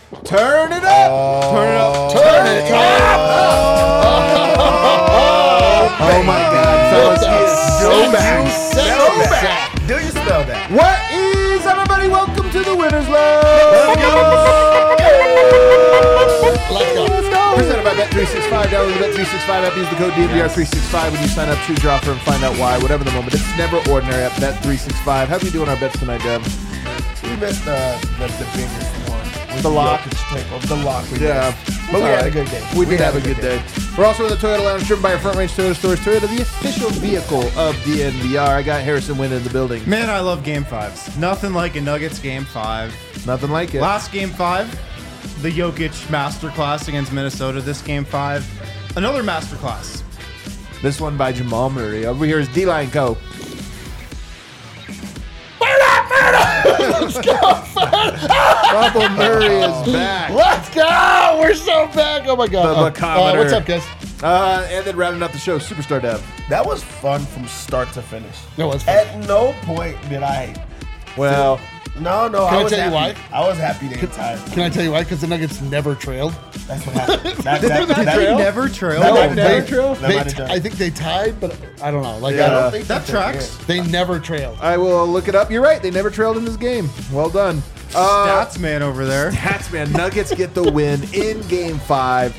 Turn it up! Turn it up! Turn it up! Oh my God, fellas, go back. Go back. Do you spell that? What is everybody? Welcome to the Winners Love. Let's go. Presented by Bet365. Download the Bet365 app. Use the code DNVR365 when you sign up. Choose your offer and find out why. Whatever the moment, it's never ordinary at Bet365. How are we doing our bets tonight, Deb? We missed the biggest one. The lock. The lock. Yeah. But we had a good day. We did have a good day. We're also in the Toyota Lounge, driven by our Front Range Toyota Stores. Toyota, the official vehicle of DNVR. I got Harrison Wynn in the building. Man, I love Game 5s. Nothing like a Nuggets Game 5. Nothing like it. Last Game 5, the Jokic masterclass against Minnesota. This Game 5, another masterclass. This one by Jamal Murray. Over here is D-Line Co. Let's go. Papa Murray is back. Let's go. We're so back. Oh, my God. The Bacometer. What's up, guys? And then rounding out the show, Superstar Dev. That was fun from start to finish. That was fun. At no point did I... Well... No. Can I tell you why? I was happy they retired. Can I tell you why? Because the Nuggets never trailed. That's what happened. They never trailed. No, never trailed. I think they tied, but I don't know. Like, I don't think that tracks. They never trailed. I will look it up. You're right. They never trailed in this game. Well done. Stats man over there. Stats man. Nuggets get the win in Game 5,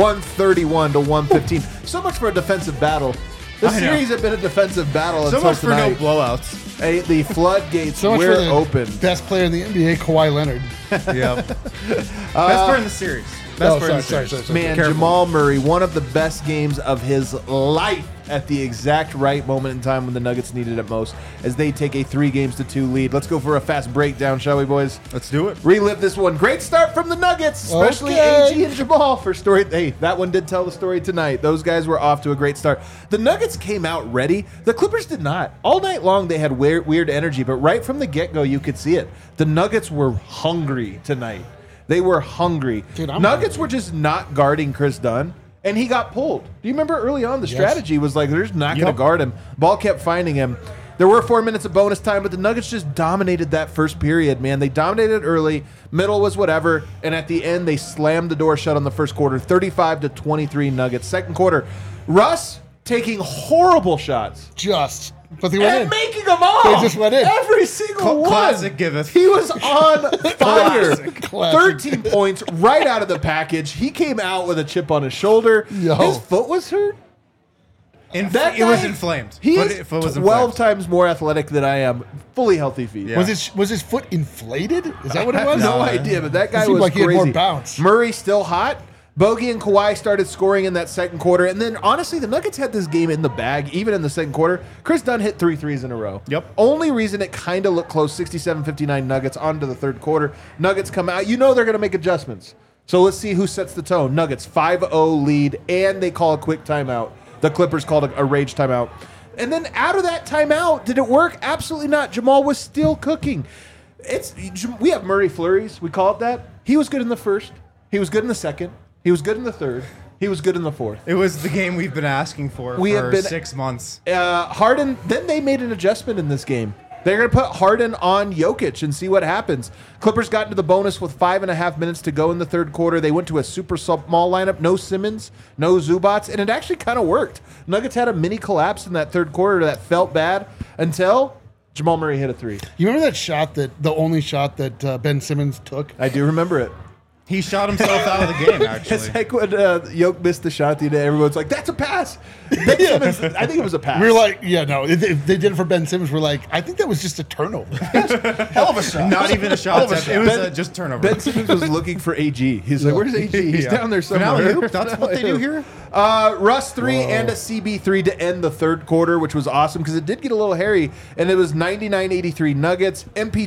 131 to 115. So much for a defensive battle. The series had been a defensive battle so until much tonight. for no blowouts. The floodgates So much were for the open. best player in the NBA, Kawhi Leonard. Yeah. Best player in the series. Best player in the series. Man, Careful. Jamal Murray, one of the best games of his life at the exact right moment in time when the Nuggets needed it most as they take a 3-2 lead. Let's go for a fast breakdown, shall we, boys? Let's do it. Relive this one. Great start from the Nuggets, especially Okay. AG and Jamal for story. Hey, that one did tell the story tonight. Those guys were off to a great start. The Nuggets came out ready. The Clippers did not. All night long, they had weird energy, but right from the get-go, you could see it. The Nuggets were hungry tonight. They were hungry. Dude, I'm Nuggets hungry. were just not guarding Chris Dunn, and he got pulled. Do you remember early on the strategy was like, they're just not going to guard him. Ball kept finding him. There were 4 minutes of bonus time, but the Nuggets just dominated that first period, man. They dominated early, middle was whatever, and at the end, they slammed the door shut on the first quarter, 35-23 Nuggets. Second quarter, Russ taking horrible shots. But they went And in. making them all. They just went in. Every single one. Classic giveth. He was on fire. Classic. 13 points right out of the package. He came out with a chip on his shoulder. Yo. His foot was hurt. It That was guy- inflamed. He Foot- is foot was 12 inflamed. times more athletic than I am. Fully healthy feet. Yeah. Was his foot inflated? Is that what I it have was? no idea, but that guy seemed was like he had crazy. more bounce. Murray still hot. Bogey and Kawhi started scoring in that second quarter. And then, honestly, the Nuggets had this game in the bag, even in the second quarter. Chris Dunn hit 3 threes in a row. Yep. Only reason it kind of looked close, 67-59 Nuggets onto the third quarter. Nuggets come out. You know they're going to make adjustments. So let's see who sets the tone. Nuggets 5-0 lead, and they call a quick timeout. The Clippers called a rage timeout. And then out of that timeout, did it work? Absolutely not. Jamal was still cooking. We have Murray flurries. We call it that. He was good in the first. He was good in the second. He was good in the third. He was good in the fourth. It was the game we've been asking for have been 6 months. Harden, then they made an adjustment in this game. They're going to put Harden on Jokic and see what happens. Clippers got into the bonus with 5.5 minutes to go in the third quarter. They went to a super small lineup. No Simmons, no Zubats, and it actually kind of worked. Nuggets had a mini collapse in that third quarter that felt bad until Jamal Murray hit a 3. You remember that shot, the only shot that Ben Simmons took? I do remember it. He shot himself out of the game, It's actually. like when Jokic missed the shot the other day. Everyone's like, that's a pass. Ben Simmons, I think it was a pass. We were like, yeah, no. If they did it for Ben Simmons, we're like, I think that was just a turnover. Hell of a shot. Not even a shot. It was just turnover. Ben Simmons was looking for AG. He's like, where's AG? He's Yeah. down there somewhere. Finale-oop, that's what they do here? Russ 3 and a CB3 to end the third quarter, which was awesome because it did get a little hairy, and it was 99-83 Nuggets.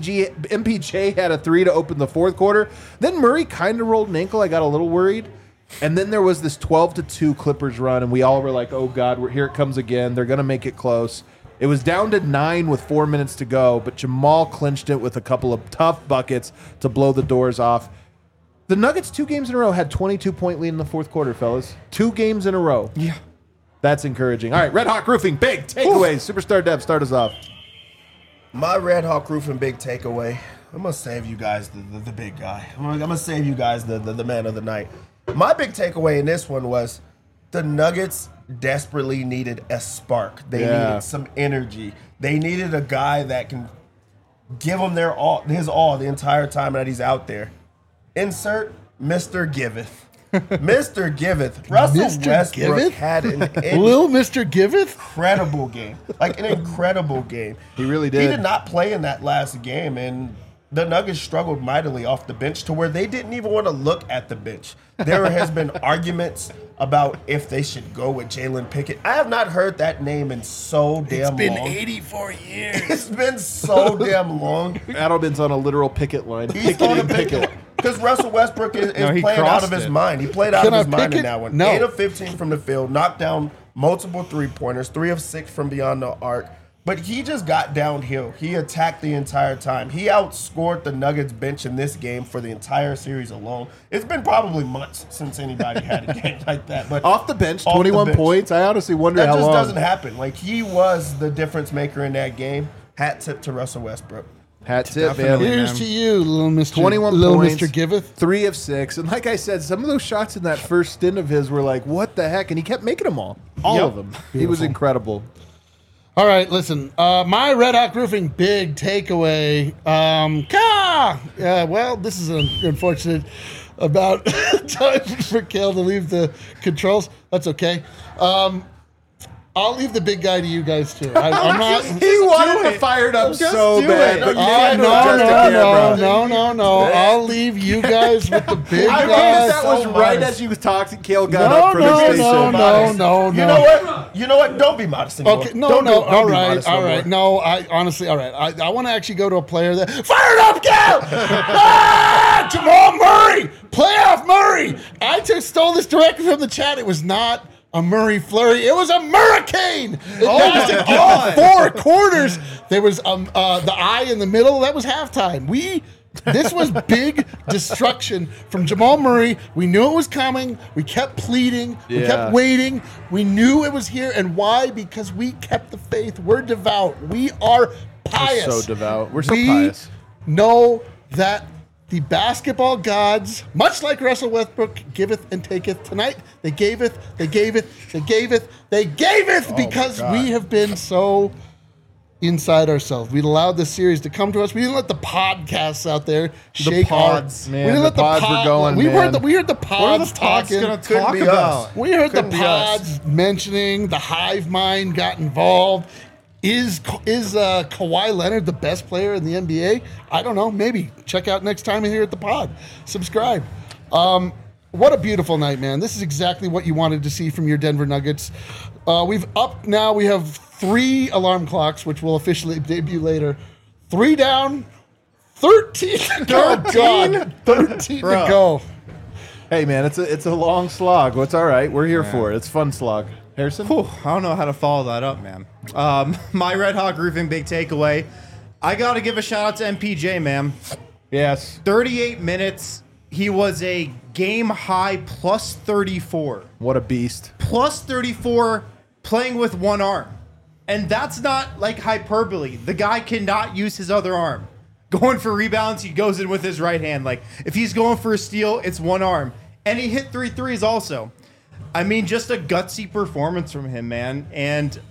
MPJ had a 3 to open the fourth quarter. Then Murray kind of rolled an ankle. I got a little worried. And then there was this 12-2 Clippers run, and we all were like, oh, God, here it comes again. They're going to make it close. It was down to 9 with 4 minutes to go, but Jamal clinched it with a couple of tough buckets to blow the doors off. The Nuggets 2 games in a row had 22-point lead in the fourth quarter, fellas. 2 games in a row. Yeah. That's encouraging. All right, Red Hawk Roofing, big takeaways. Superstar Dev, start us off. My Red Hawk Roofing big takeaway. I'm gonna save you guys the big guy. I'm gonna save you guys the man of the night. My big takeaway in this one was the Nuggets desperately needed a spark. They needed some energy. They needed a guy that can give them his all the entire time that he's out there. Insert Mr. Giveth. Mr. Giveth. Russell Mr. Westbrook Giveth? had an Little Mr. Giveth? incredible game. Like an incredible game. He really did. He did not play in that last game, and the Nuggets struggled mightily off the bench to where they didn't even want to look at the bench. There has been arguments about if they should go with Jalen Pickett. I have not heard that name in so damn long. It's been 84 years. It's been so damn long. Adelman's on a literal picket line. He's on a picket. Because Russell Westbrook is he playing out of crossed his it. mind. He played out Can of his I mind pick in it? that one. No. 8 of 15 from the field, knocked down multiple three-pointers, 3 of 6 from beyond the arc. But he just got downhill. He attacked the entire time. He outscored the Nuggets bench in this game for the entire series alone. It's been probably months since anybody had a game like that. But Off the bench, Off the 21 bench. points. I honestly wonder that how just long. doesn't happen. Like, he was the difference maker in that game. Hat tip to Russell Westbrook. Hat tip, Definitely. man. Here's to you, little Mr. 21 little points, Mr. Giveth. 3 of 6. And like I said, some of those shots in that first stint of his were like, what the heck? And he kept making them all. All Yep. of them. He was incredible. All right, listen. My Red Hawk Roofing big takeaway. Well, this is unfortunate about time for Kale to leave the controls. That's okay. I'll leave the big guy to you guys too. I'm not. He wanted to fire it up Just so do bad. it. But you No, can't adjust the camera. no. I'll leave you guys with the big I mean, guys. that was so right modest. as you talked. Kale got up from the station. No. You know what? Don't be modest anymore. Okay, Don't no. be All modest no right. more. No, I honestly, all right. I want to actually go to a player that fire it up, Cal. Jamal Murray, playoff Murray. I just stole this directly from the chat. It was not a Murray flurry. It was a Murricane. It lasted all 4 quarters. There was the eye in the middle. That was halftime. This was big destruction from Jamal Murray. We knew it was coming. We kept pleading. We kept waiting. We knew it was here. And why? Because we kept the faith. We're devout. We are pious. We're so devout. We're so we pious. know that the basketball gods, much like Russell Westbrook, giveth and taketh. Tonight, they gaveth because we have been so inside ourselves. We allowed this series to come to us. We didn't let the podcasts out there shake pods, our. man, we didn't the let the pods were going, We man. heard the What are pods the pods talking. going to Couldn't talk be about? us. We heard Couldn't the be us. pods mentioning the hive mind got involved. Is Kawhi Leonard the best player in the NBA? I don't know. Maybe. Check out next time here at the pod. Subscribe. What a beautiful night, man. This is exactly what you wanted to see from your Denver Nuggets. We have 3 alarm clocks, which will officially debut later. 3 down, 13 to go. God, 13 to go. Hey, man, it's a long slog. Well, it's all right. We're here for it. It's a fun slog. Harrison? Whew, I don't know how to follow that up, man. My Red Hawk Roofing big takeaway. I got to give a shout out to MPJ, man. Yes. 38 minutes. He was a game high plus 34. What a beast. Plus 34 playing with one arm. And that's not like hyperbole. The guy cannot use his other arm. Going for rebounds, he goes in with his right hand. Like, if he's going for a steal, it's one arm. And he hit 3 threes also. I mean, just a gutsy performance from him, man. And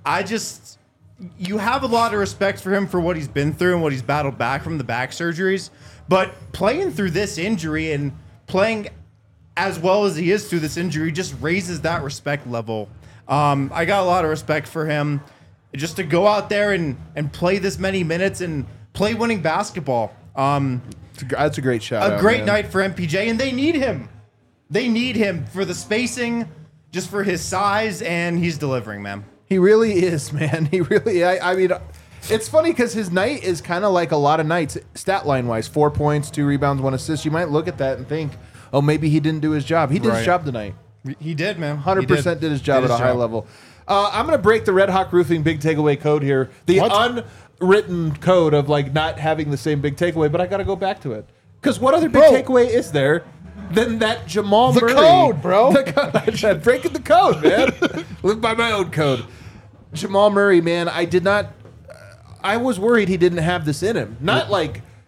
you have a lot of respect for him for what he's been through and what he's battled back from the back surgeries. But playing through this injury and playing as well as he is through this injury just raises that respect level. I got a lot of respect for him just to go out there and play this many minutes and play winning basketball. That's a great shot. A great night for MPJ, and they need him. They need him for the spacing, just for his size, and he's delivering, man. He really is, man. He really. I mean, it's funny because his night is kind of like a lot of nights, stat line wise. 4 points, 2 rebounds, 1 assist. You might look at that and think, oh, maybe he didn't do his job. He did his Right. job tonight. He did, man. 100% did his job at a high level. I'm going to break the Red Hawk Roofing big takeaway code here. The unwritten code of like not having the same big takeaway, but I got to go back to it. Because what other big takeaway is there than that Jamal Murray? The code, bro. I'm breaking the code, man. Live by my own code. Jamal Murray, man, I was worried he didn't have this in him. Not like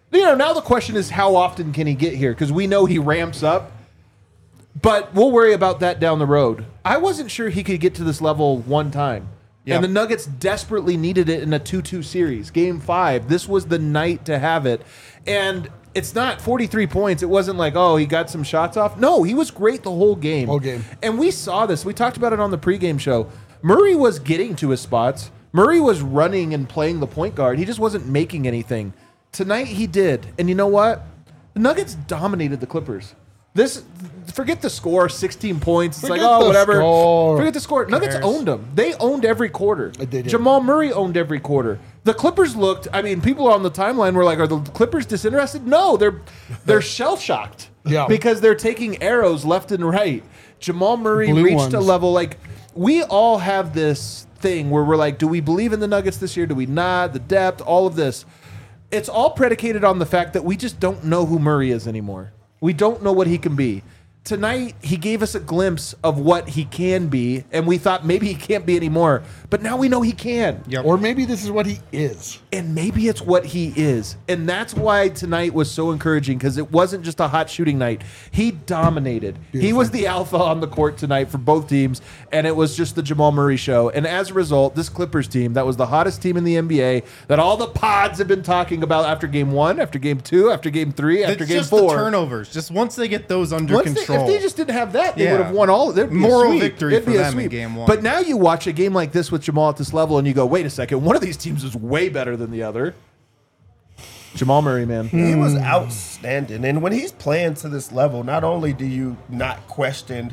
Now the question is how often can he get here? Because we know he ramps up, but we'll worry about that down the road. I wasn't sure he could get to this level one time. Yep. And the Nuggets desperately needed it in a 2-2 series. Game 5, this was the night to have it. And it's not 43 points. It wasn't like, oh, he got some shots off. No, he was great the whole game. And we saw this. We talked about it on the pregame show. Murray was getting to his spots. Murray was running and playing the point guard. He just wasn't making anything. Tonight he did. And you know what? The Nuggets dominated the Clippers. Forget the score, 16 points. It's Forget like, oh, the whatever. score. Forget the score. Nuggets owned them. They owned every quarter. They did. Jamal Murray owned every quarter. The Clippers looked, people on the timeline were like, are the Clippers disinterested? No, they're shell-shocked. Yeah. Because they're taking arrows left and right. Jamal Murray Blue reached a ones. level, like, we all have this thing where we're like, do we believe in the Nuggets this year? Do we not? The depth, all of this. It's all predicated on the fact that we just don't know who Murray is anymore. We don't know what he can be. Tonight, he gave us a glimpse of what he can be, and we thought maybe he can't be anymore. But now we know he can. Yep. Or maybe this is what he is. And maybe it's what he is. And that's why tonight was so encouraging, because it wasn't just a hot shooting night. He dominated. He was the alpha on the court tonight for both teams, and it was just the Jamal Murray show. And as a result, this Clippers team, that was the hottest team in the NBA, that all the pods have been talking about after game 1, after game 2, after game 3, after game 4. The turnovers. Just once they get those under control. If they just didn't have that, they Yeah. would have won all. It'd be Moral a sweep. victory It'd for be a them in sweep. game 1. But now you watch a game like this with Jamal at this level, and you go, wait a second, one of these teams is way better than the other. Jamal Murray, man. He was outstanding. And when he's playing to this level, not only do you not question,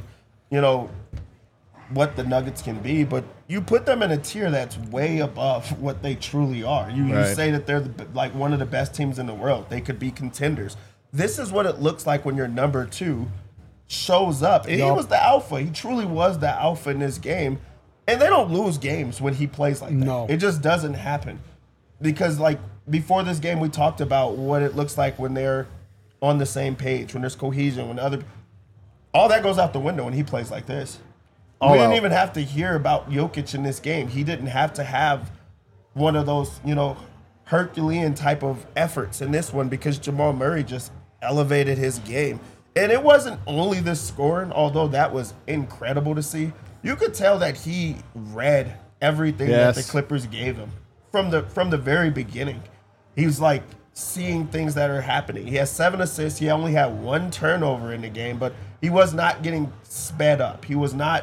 what the Nuggets can be, but you put them in a tier that's way above what they truly are. You say that they're like one of the best teams in the world. They could be contenders. This is what it looks like when your number 2 shows up. And he was the alpha. He truly was the alpha in this game. And they don't lose games when he plays like that. No. It just doesn't happen. Because, before this game, we talked about what it looks like when they're on the same page, when there's cohesion, when all that goes out the window when he plays like this. We didn't even have to hear about Jokic in this game. He didn't have to have one of those, Herculean type of efforts in this one, because Jamal Murray just elevated his game. And it wasn't only the scoring, although that was incredible to see. You could tell that he read everything that the Clippers gave him from the very beginning. He was like seeing things that are happening. He has 7 assists. He only had 1 turnover in the game, but he was not getting sped up. He was not,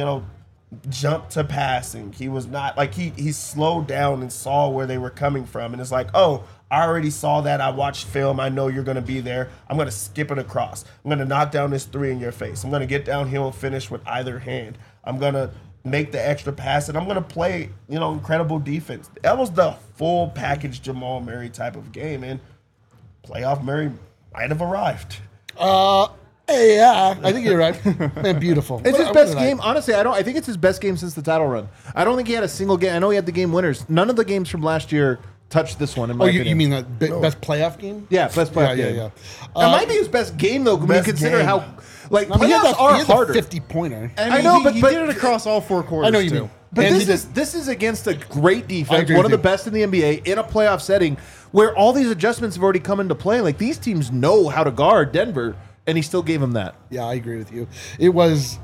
jump to passing. He was not like he slowed down and saw where they were coming from. And it's like, oh, I already saw that. I watched film. I know you're going to be there. I'm going to skip it across. I'm going to knock down this 3 in your face. I'm going to get downhill and finish with either hand. I'm going to make the extra pass, and I'm going to play, incredible defense. That was the full package Jamal Murray type of game, and playoff Murray might have arrived. Yeah, I think you're right. Man, beautiful. It's his best game. Honestly, I think it's his best game since the title run. I don't think he had a single game. I know he had the game winners. None of the games from last year touched this one, in my opinion. You mean the best playoff game? Yeah, best playoff game. Yeah. It might be his best game, though, when you consider game. how, he had playoffs are harder. 50-pointer. I know, but he did it across all 4 quarters. I know you too. mean. But And this is against a great I defense, agree one of with the you. best in the NBA, in a playoff setting where all these adjustments have already come into play. Like, these teams know how to guard Denver, and he still gave them that. Yeah, I agree with you. It was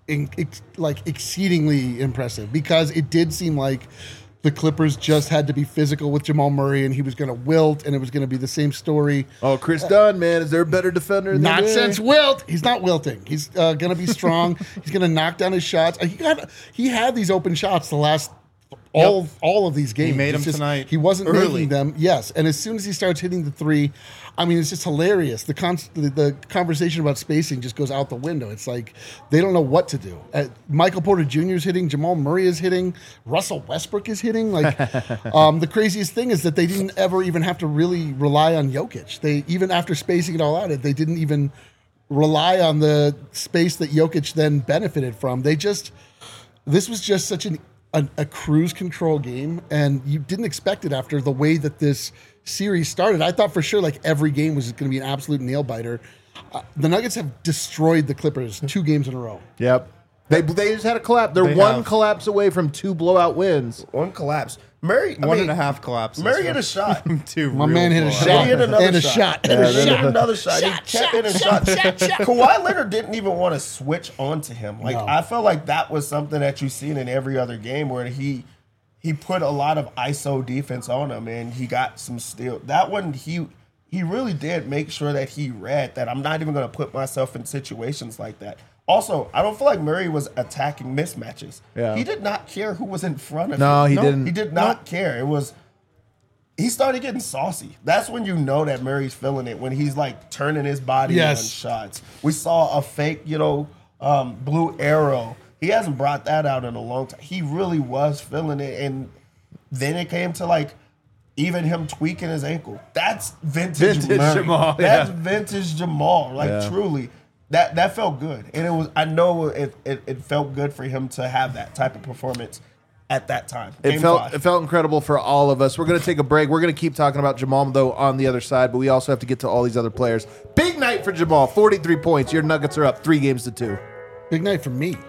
exceedingly impressive, because it did seem like the Clippers just had to be physical with Jamal Murray, and he was going to wilt, and it was going to be the same story. Oh, Chris Dunn, man, is there a better defender than Not him? since wilt. He's not wilting. He's going to be strong. He's going to knock down his shots. He had these open shots the last all of these games. He made It's them tonight. He wasn't early. making them. Yes, and as soon as he starts hitting the 3, it's just hilarious. The conversation about spacing just goes out the window. It's like they don't know what to do. Michael Porter Jr. is hitting. Jamal Murray is hitting. Russell Westbrook is hitting. Like the craziest thing is that they didn't ever even have to really rely on Jokic. They, even after spacing it all out, they didn't even rely on the space that Jokic then benefited from. This was just such a cruise control game, and you didn't expect it after the way that this series started. I thought for sure every game was going to be an absolute nail biter. The Nuggets have destroyed the Clippers 2 games in a row. Yep. They just had a collapse. They're one collapse away from 2 blowout wins. One collapse. Murray, I mean, 1.5 collapses. Murray hit a shot. My man hit a shot. Then he hit another and a shot. shot. And he hit another shot. He kept hitting shots. Kawhi Leonard didn't even want to switch onto him. Like, No. I felt like that was something that you've seen in every other game where he put a lot of ISO defense on him, and he got some steal. That one, he really did make sure that he read that I'm not even going to put myself in situations like that. Also, I don't feel like Murray was attacking mismatches. Yeah. He did not care who was in front of No, him. he didn't. He did not care. It was he started getting saucy. That's when you know that Murray's feeling it, when he's like turning his body on shots. We saw a fake, blue arrow. He hasn't brought that out in a long time. He really was feeling it, and then it came to like even him tweaking his ankle. That's vintage Murray. Jamal. That's Yeah. vintage Jamal. Like Yeah. truly. That felt good. And it was, I know it felt good for him to have that type of performance at that time. It Game felt 5. it felt incredible for all of us. We're going to take a break. We're going to keep talking about Jamal, though, on the other side, but we also have to get to all these other players. Big night for Jamal, 43 points. Your Nuggets are up 3-2. Big night for me.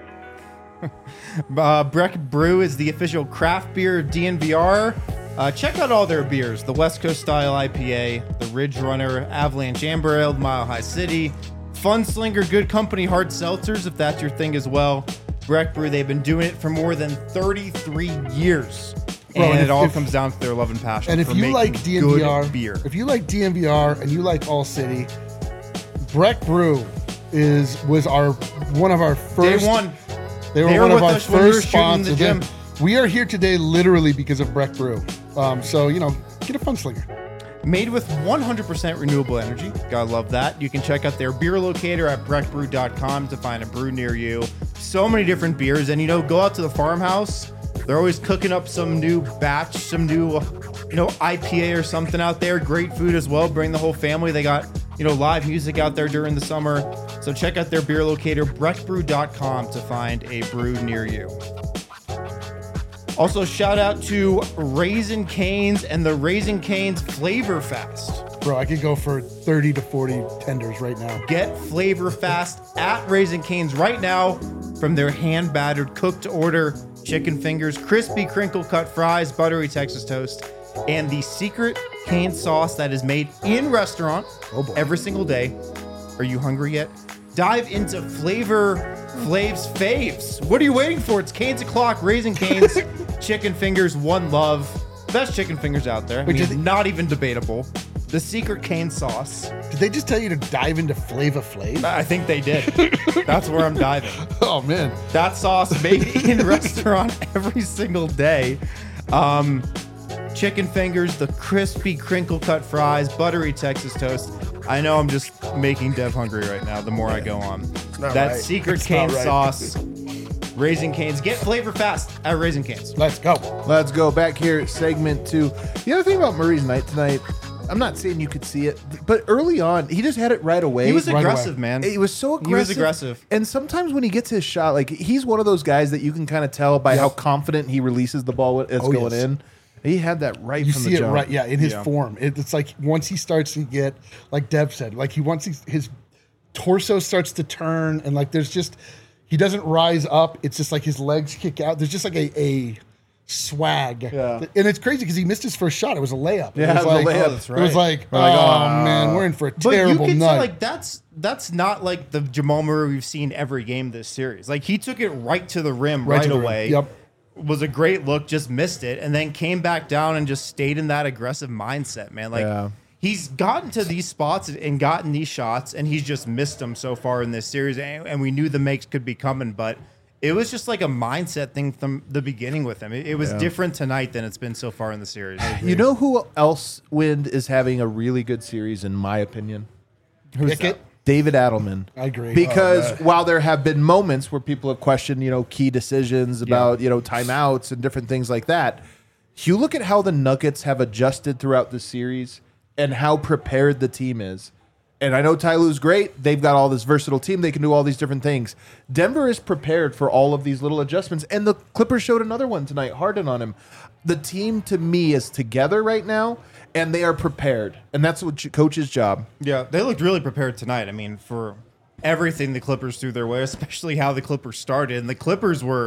Breck Brew is the official craft beer of DNVR. Check out all their beers: the West Coast Style IPA, the Ridge Runner, Avalanche Amber Ale, Mile High City, Funslinger Good Company Hard Seltzers, if that's your thing as well. Breck Brew, they've been doing it for more than 33 years. Bro, and and it all if- comes down to their love and passion And if for you making like good DNVR, beer. if you like DNVR and you like All City, Breck Brew was one of our first. Day one. They were They were one of with our us when we were first shooting in the sponsors. gym. We are here today literally because of Breck Brew. So get a Funslinger. Made with 100% renewable energy. Gotta love that. You can check out their beer locator at breckbrew.com to find a brew near you. So many different beers. And, go out to the farmhouse. They're always cooking up some new batch, some new, IPA or something out there. Great food as well. Bring the whole family. They got, live music out there during the summer. So check out their beer locator, breckbrew.com, to find a brew near you. Also, shout out to Raising Cane's and the Raising Cane's Flavor Fast. Bro, I could go for 30 to 40 tenders right now. Get Flavor Fast at Raising Cane's right now from their hand-battered, cooked-to-order chicken fingers, crispy crinkle-cut fries, buttery Texas toast, and the secret cane sauce that is made in restaurant every single day. Are you hungry yet? Dive into Flav's faves. What are you waiting for? It's Cane's O'Clock, Raising Cane's, chicken fingers, one love. Best chicken fingers out there. Not even debatable. The secret cane sauce. Did they just tell you to dive into Flava Flav? I think they did. That's where I'm diving. Oh, man. That sauce made in restaurant every single day. Chicken fingers, the crispy crinkle cut fries, buttery Texas toast. I know I'm just making Dev hungry right now the more I go on. not That right. secret It's cane not right. sauce. Raising Cane's. Get Flavor Fast at Raising Cane's. Let's go. Let's go back here at segment 2. The other thing about Murray's night tonight, I'm not saying you could see it, but early on, he just had it right away. He was Right aggressive, away. man. He was so aggressive. He was aggressive. And sometimes when he gets his shot, like he's one of those guys that you can kind of tell by how confident he releases the ball when it's Oh, going yes. in. He had that right You from see the it jump. right, in his Yeah. form. It's like once he starts to get, like Deb said, like his torso starts to turn, and like he doesn't rise up. It's just like his legs kick out. There's just like a swag. Yeah. And it's crazy because he missed his first shot. It was a layup. Yeah, it was a like, layup. Oh, that's It was right. like, We're like, oh man, we're in for a But terrible you can night. see, like, that's not like the Jamal Murray we've seen every game this series. Like, he took it right to the rim right to the rim. away. Yep. Was a great look, just missed it, and then came back down and just stayed in that aggressive mindset, man. Like, Yeah. he's gotten to these spots and gotten these shots, and he's just missed them so far in this series, and we knew the makes could be coming, but it was just like a mindset thing from the beginning with him. It was different tonight than it's been so far in the series. You know who else Wind is having a really good series, in my opinion? Pickett. David Adelman. I agree. Because while there have been moments where people have questioned, key decisions about, timeouts and different things like that, you look at how the Nuggets have adjusted throughout the series and how prepared the team is. And I know Ty Lue's great. They've got all this versatile team. They can do all these different things. Denver is prepared for all of these little adjustments. And the Clippers showed another one tonight, Harden on him. The team, to me, is together right now, and they are prepared. And that's what coach's job. Yeah, they looked really prepared tonight. I mean, for everything the Clippers threw their way, especially how the Clippers started. And the Clippers were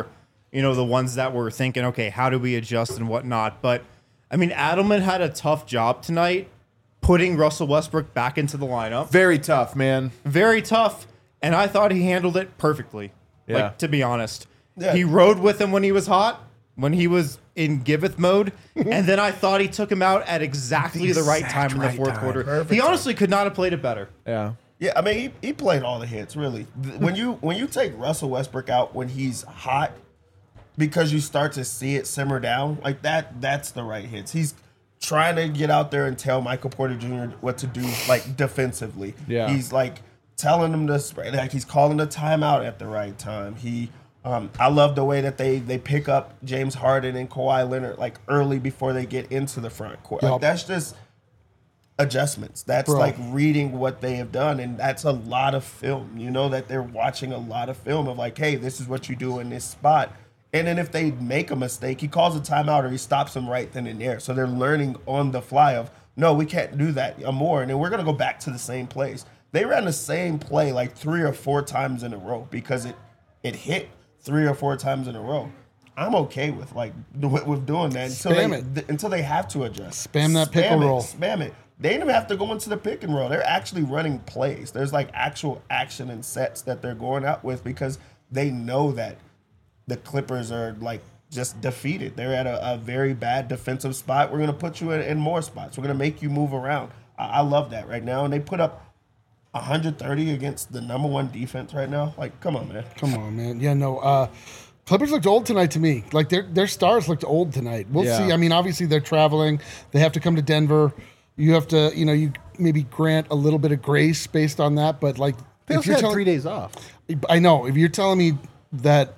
the ones that were thinking, okay, how do we adjust and whatnot. But I mean, Adelman had a tough job tonight putting Russell Westbrook back into the lineup. Very tough, man. Very tough. And I thought he handled it perfectly. Yeah. Like, to be honest. Yeah. He rode with him when he was hot, when he was in giveth mode. And then I thought he took him out at exactly the right time in the fourth quarter. Perfect He time. honestly could not have played it better. Yeah. Yeah, I mean, he played all the hits, really. When you take Russell Westbrook out when he's hot, because you start to see it simmer down, like that's the right hits. He's trying to get out there and tell Michael Porter Jr. what to do, like, defensively. Yeah. He's, like, telling him to spray. Like, he's calling the timeout at the right time. I love the way that they pick up James Harden and Kawhi Leonard, like, early before they get into the front court. Yup. Like, that's just adjustments. That's Bro. like reading what they have done, and that's a lot of film. You know that they're watching a lot of film of, like, hey, this is what you do in this spot. And then if they make a mistake, he calls a timeout or he stops them right then and there. So they're learning on the fly of, no, we can't do that more, and then we're gonna go back to the same place. They ran the same play like 3 or 4 times in a row because it hit 3 or 4 times in a row. I'm okay with with doing that until they have to adjust. Spam that pick and roll. Spam it. They didn't even have to go into the pick and roll. They're actually running plays. There's like actual action and sets that they're going out with because they know that the Clippers are like just defeated. They're at a very bad defensive spot. We're going to put you in more spots. We're going to make you move around. I love that right now. And they put up 130 against the #1 defense right now. Like, come on, man. Come on, man. Yeah, no. Clippers looked old tonight to me. Like, their stars looked old tonight. We'll Yeah. see. I mean, obviously they're traveling. They have to come to Denver. You have to, you maybe grant a little bit of grace based on that. But, like, They also had 3 days off. I know. If you're telling me that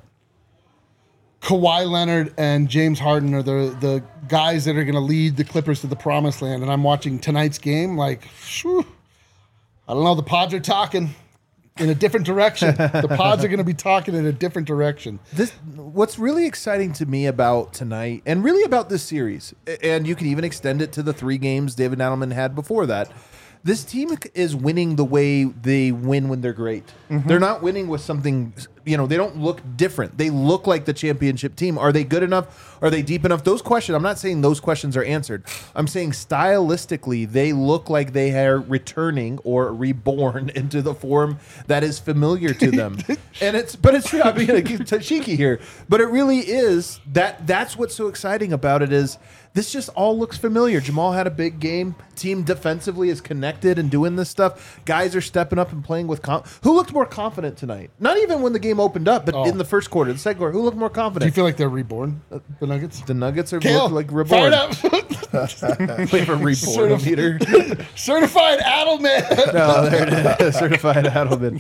Kawhi Leonard and James Harden are the guys that are going to lead the Clippers to the promised land, and I'm watching tonight's game, like, whew, I don't know. The pods are talking in a different direction. The pods are going to be talking in a different direction. What's really exciting to me about tonight, and really about this series, and you can even extend it to the 3 games David Adelman had before that, this team is winning the way they win when they're great. They're not winning with something, they don't look different. They look like the championship team. Are they good enough? Are they deep enough? Those questions, I'm not saying those questions are answered. I'm saying stylistically, they look like they are returning or reborn into the form that is familiar to them. But it's true. I'm being cheeky here. But it really is, that's what's so exciting about it is this just all looks familiar. Jamal had a big game. Team defensively is connected and doing this stuff. Guys are stepping up and playing with who looked more confident tonight? Not even when the game opened up, but in the first quarter, the second quarter, who looked more Do you confident? feel like they're reborn, the Nuggets? The Nuggets are Kale, look like fire reborn. it up. We have a reborn meter. Certified Adelman. No, there it is. Certified Adelman.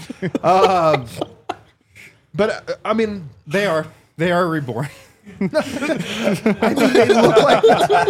But I mean, They are reborn. they look like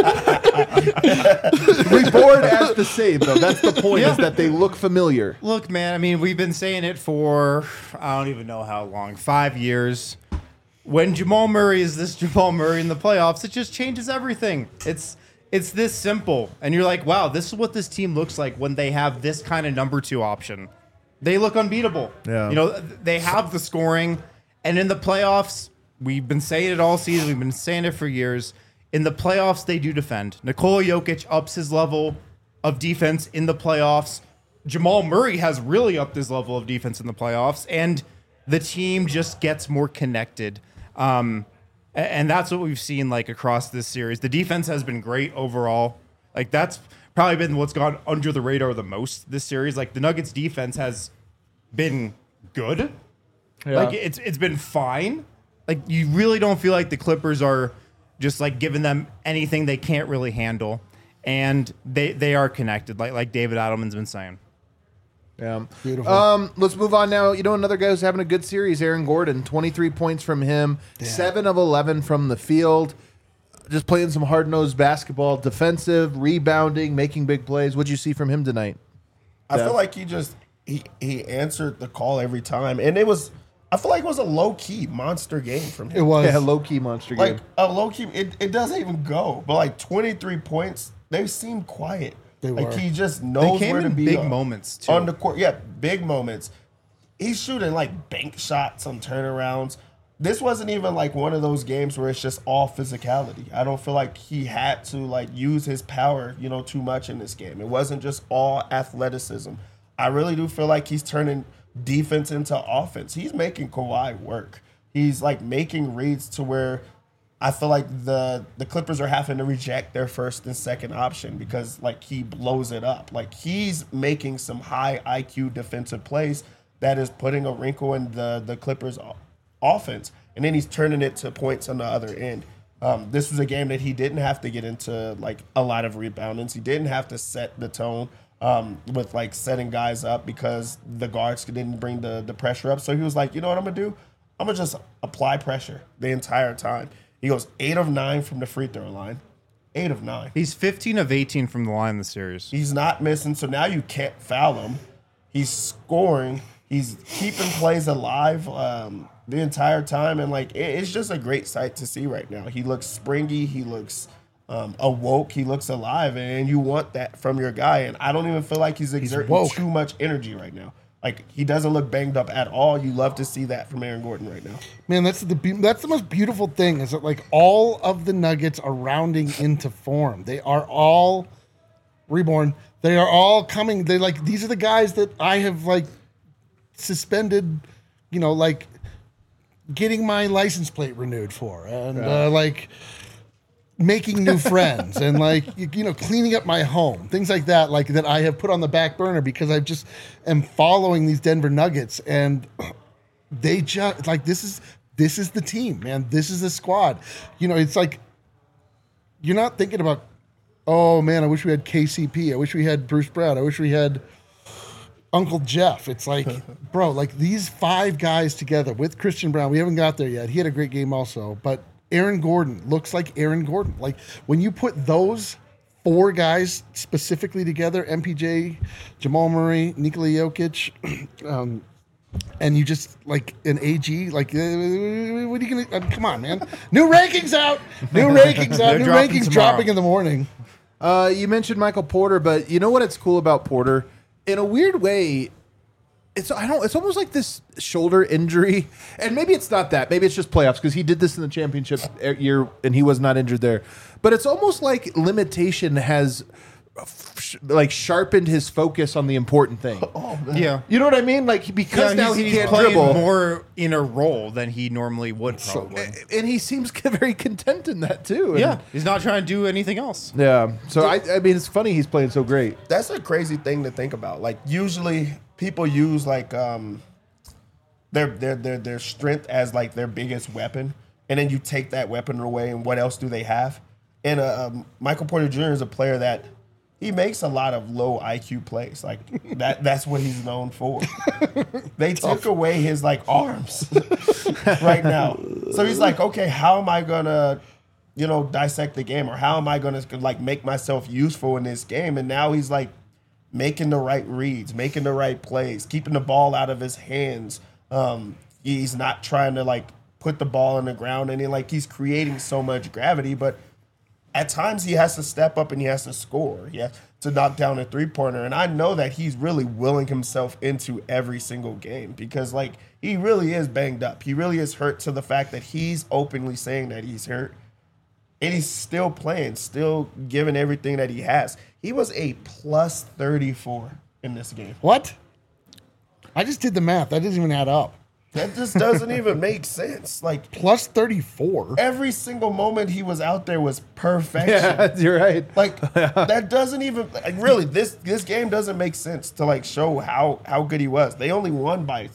reborn as the same, though. That's the point, is that they look familiar. Look, man, I mean, we've been saying it for, I don't even know how long, 5 years. When Jamal Murray is this Jamal Murray in the playoffs, it just changes everything. It's this simple. And you're like, wow, this is what this team looks like when they have this kind of #2 option. They look unbeatable. Yeah. They have the scoring. And in the playoffs, we've been saying it all season. We've been saying it for years. In the playoffs, they do defend. Nikola Jokic ups his level of defense in the playoffs. Jamal Murray has really upped his level of defense in the playoffs. And the team just gets more connected. And that's what we've seen like across this series. The defense has been great overall. Like that's probably been what's gone under the radar the most this series. Like the Nuggets defense has been good. Yeah. Like it's been fine. Like you really don't feel like the Clippers are just like giving them anything they can't really handle. And they are connected, like David Adelman's been saying. Yeah. Beautiful. Let's move on now. Another guy who's having a good series, Aaron Gordon. 23 points from him, 7 of 11 from the field. Just playing some hard-nosed basketball, defensive, rebounding, making big plays. What'd you see from him tonight? I feel like he answered the call every time, and I feel like it was a low key monster game from him. It was. Yeah, low-key monster game. Like a low key, it doesn't even go. But like 23 points, they seem quiet. They like were. he just They knows came where to in be big moments too. on the court. Yeah, big moments. He's shooting like bank shots on turnarounds. this wasn't even like one of those games where it's just all physicality. I don't feel like he had to like use his power, too much in this game. It wasn't just all athleticism. I really do feel like he's turning defense into offense. He's making Kawhi work. He's like making reads to where I feel like the Clippers are having to reject their first and second option because like he blows it up. Like he's making some high IQ defensive plays that is putting a wrinkle in the Clippers offense, and then he's turning it to points on the other end. This was a game that he didn't have to get into like a lot of reboundings. He didn't have to set the tone with like setting guys up because the guards didn't bring the pressure up. So he was like, you know what I'm gonna do? I'm gonna just apply pressure the entire time. He goes 8 of 9 from the free throw line. 8 of 9. He's 15 of 18 from the line in the series. He's not missing, so now you can't foul him. He's scoring. He's keeping plays alive the entire time, and like it's just a great sight to see right now. He looks springy. He looks awoke. He looks alive, and you want that from your guy. And I don't even feel like he's exerting too much energy right now. Like he doesn't look banged up at all. You love to see that from Aaron Gordon right now. Man, that's the most beautiful thing is that like all of the Nuggets are rounding into form. They are all reborn. They are all coming. They like these are the guys that I have like suspended, like getting my license plate renewed for, and like making new friends, and like cleaning up my home, things like that, like that I have put on the back burner because I just am following these Denver Nuggets, and they just like this is the team, man. This is the squad. It's like you're not thinking about, oh man, I wish we had KCP. I wish we had Bruce Brown. I wish we had Uncle Jeff. It's like, bro, like these 5 guys together with Christian Brown. We haven't got there yet. He had a great game also, but Aaron Gordon looks like Aaron Gordon. Like when you put those 4 guys specifically together, MPJ, Jamal Murray, Nikola Jokic, and you just like an AG, like what are you gonna? Come on, man! New rankings out. New rankings out. New rankings dropping in the morning. You mentioned Michael Porter, but you know what? It's cool about Porter. In a weird way, it's almost like this shoulder injury, and maybe it's not that. Maybe it's just playoffs because he did this in the championship year and he was not injured there. But it's almost like limitation has like sharpened his focus on the important thing. Oh man. Yeah. You know what I mean? Like because now he can't playing dribble more in a role than he normally would probably. and he seems very content in that too. Yeah, he's not trying to do anything else. Yeah. So I mean, it's funny he's playing so great. That's a crazy thing to think about. Like usually people use like their strength as like their biggest weapon, and then you take that weapon away, and what else do they have? And Michael Porter Jr. is a player that he makes a lot of low IQ plays. Like that's what he's known for. They took away his like arms right now. So he's like, okay, how am I gonna, dissect the game, or how am I gonna like make myself useful in this game? And now he's like making the right reads, making the right plays, keeping the ball out of his hands. He's not trying to like put the ball on the ground, and he's creating so much gravity, but at times he has to step up and he has to score. He has to knock down a 3-pointer. And I know that he's really willing himself into every single game because like he really is banged up. He really is hurt to the fact that he's openly saying that he's hurt. And he's still playing, still giving everything that he has. He was a plus 34 in this game. What? I just did the math. That doesn't even add up. That just doesn't even make sense. Like plus 34. Every single moment he was out there was perfection. Yeah, you're right. Like that doesn't even like really this game doesn't make sense to like show how good he was. They only won by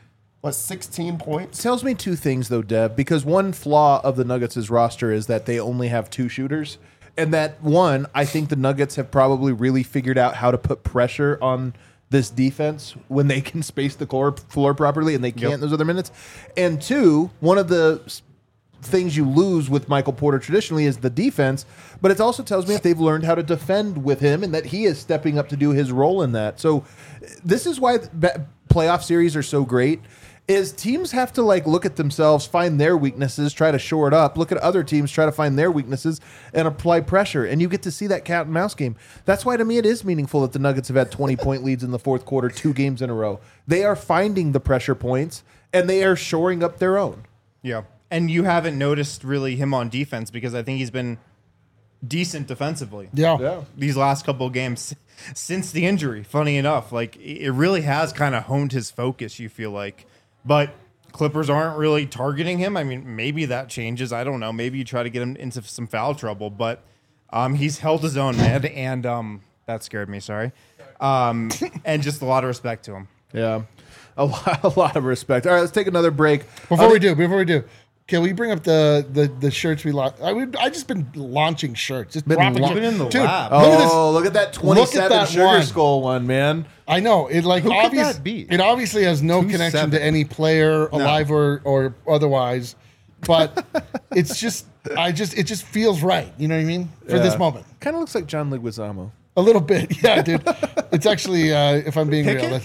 16 points. Tells me 2 things though, Dev, because one flaw of the Nuggets' roster is that they only have 2 shooters. And that one, I think the Nuggets have probably really figured out how to put pressure on this defense when they can space the floor properly, and they can't in those other minutes. And 2, one of the things you lose with Michael Porter traditionally is the defense, but it also tells me that they've learned how to defend with him and that he is stepping up to do his role in that. So this is why playoff series are so great, is teams have to like look at themselves, find their weaknesses, try to shore it up, look at other teams, try to find their weaknesses and apply pressure. And you get to see that cat and mouse game. That's why to me it is meaningful that the Nuggets have had 20-point leads in the fourth quarter, 2 games in a row. They are finding the pressure points and they are shoring up their own. Yeah. And you haven't noticed really him on defense because I think he's been decent defensively. Yeah. These last couple of games since the injury, funny enough, like it really has kind of honed his focus, you feel like. But Clippers aren't really targeting him. I mean, maybe that changes. I don't know. Maybe you try to get him into some foul trouble, but he's held his own, man, and that scared me, sorry. And just a lot of respect to him. Yeah. A lot of respect. All right, let's take another break. Before we do, can we bring up the shirts we launched? I just been launching shirts. Just dropping been in the Dude, lab. Look at that 27 that Sugar one. Skull one, man. I know it. Like Who could obvious, that be? it obviously has no 2-7. connection to any player, alive or otherwise. But it's just, it just feels right. You know what I mean? For this moment, Kind of looks like John Leguizamo. a little bit. Yeah, dude. It's actually, if I'm being real,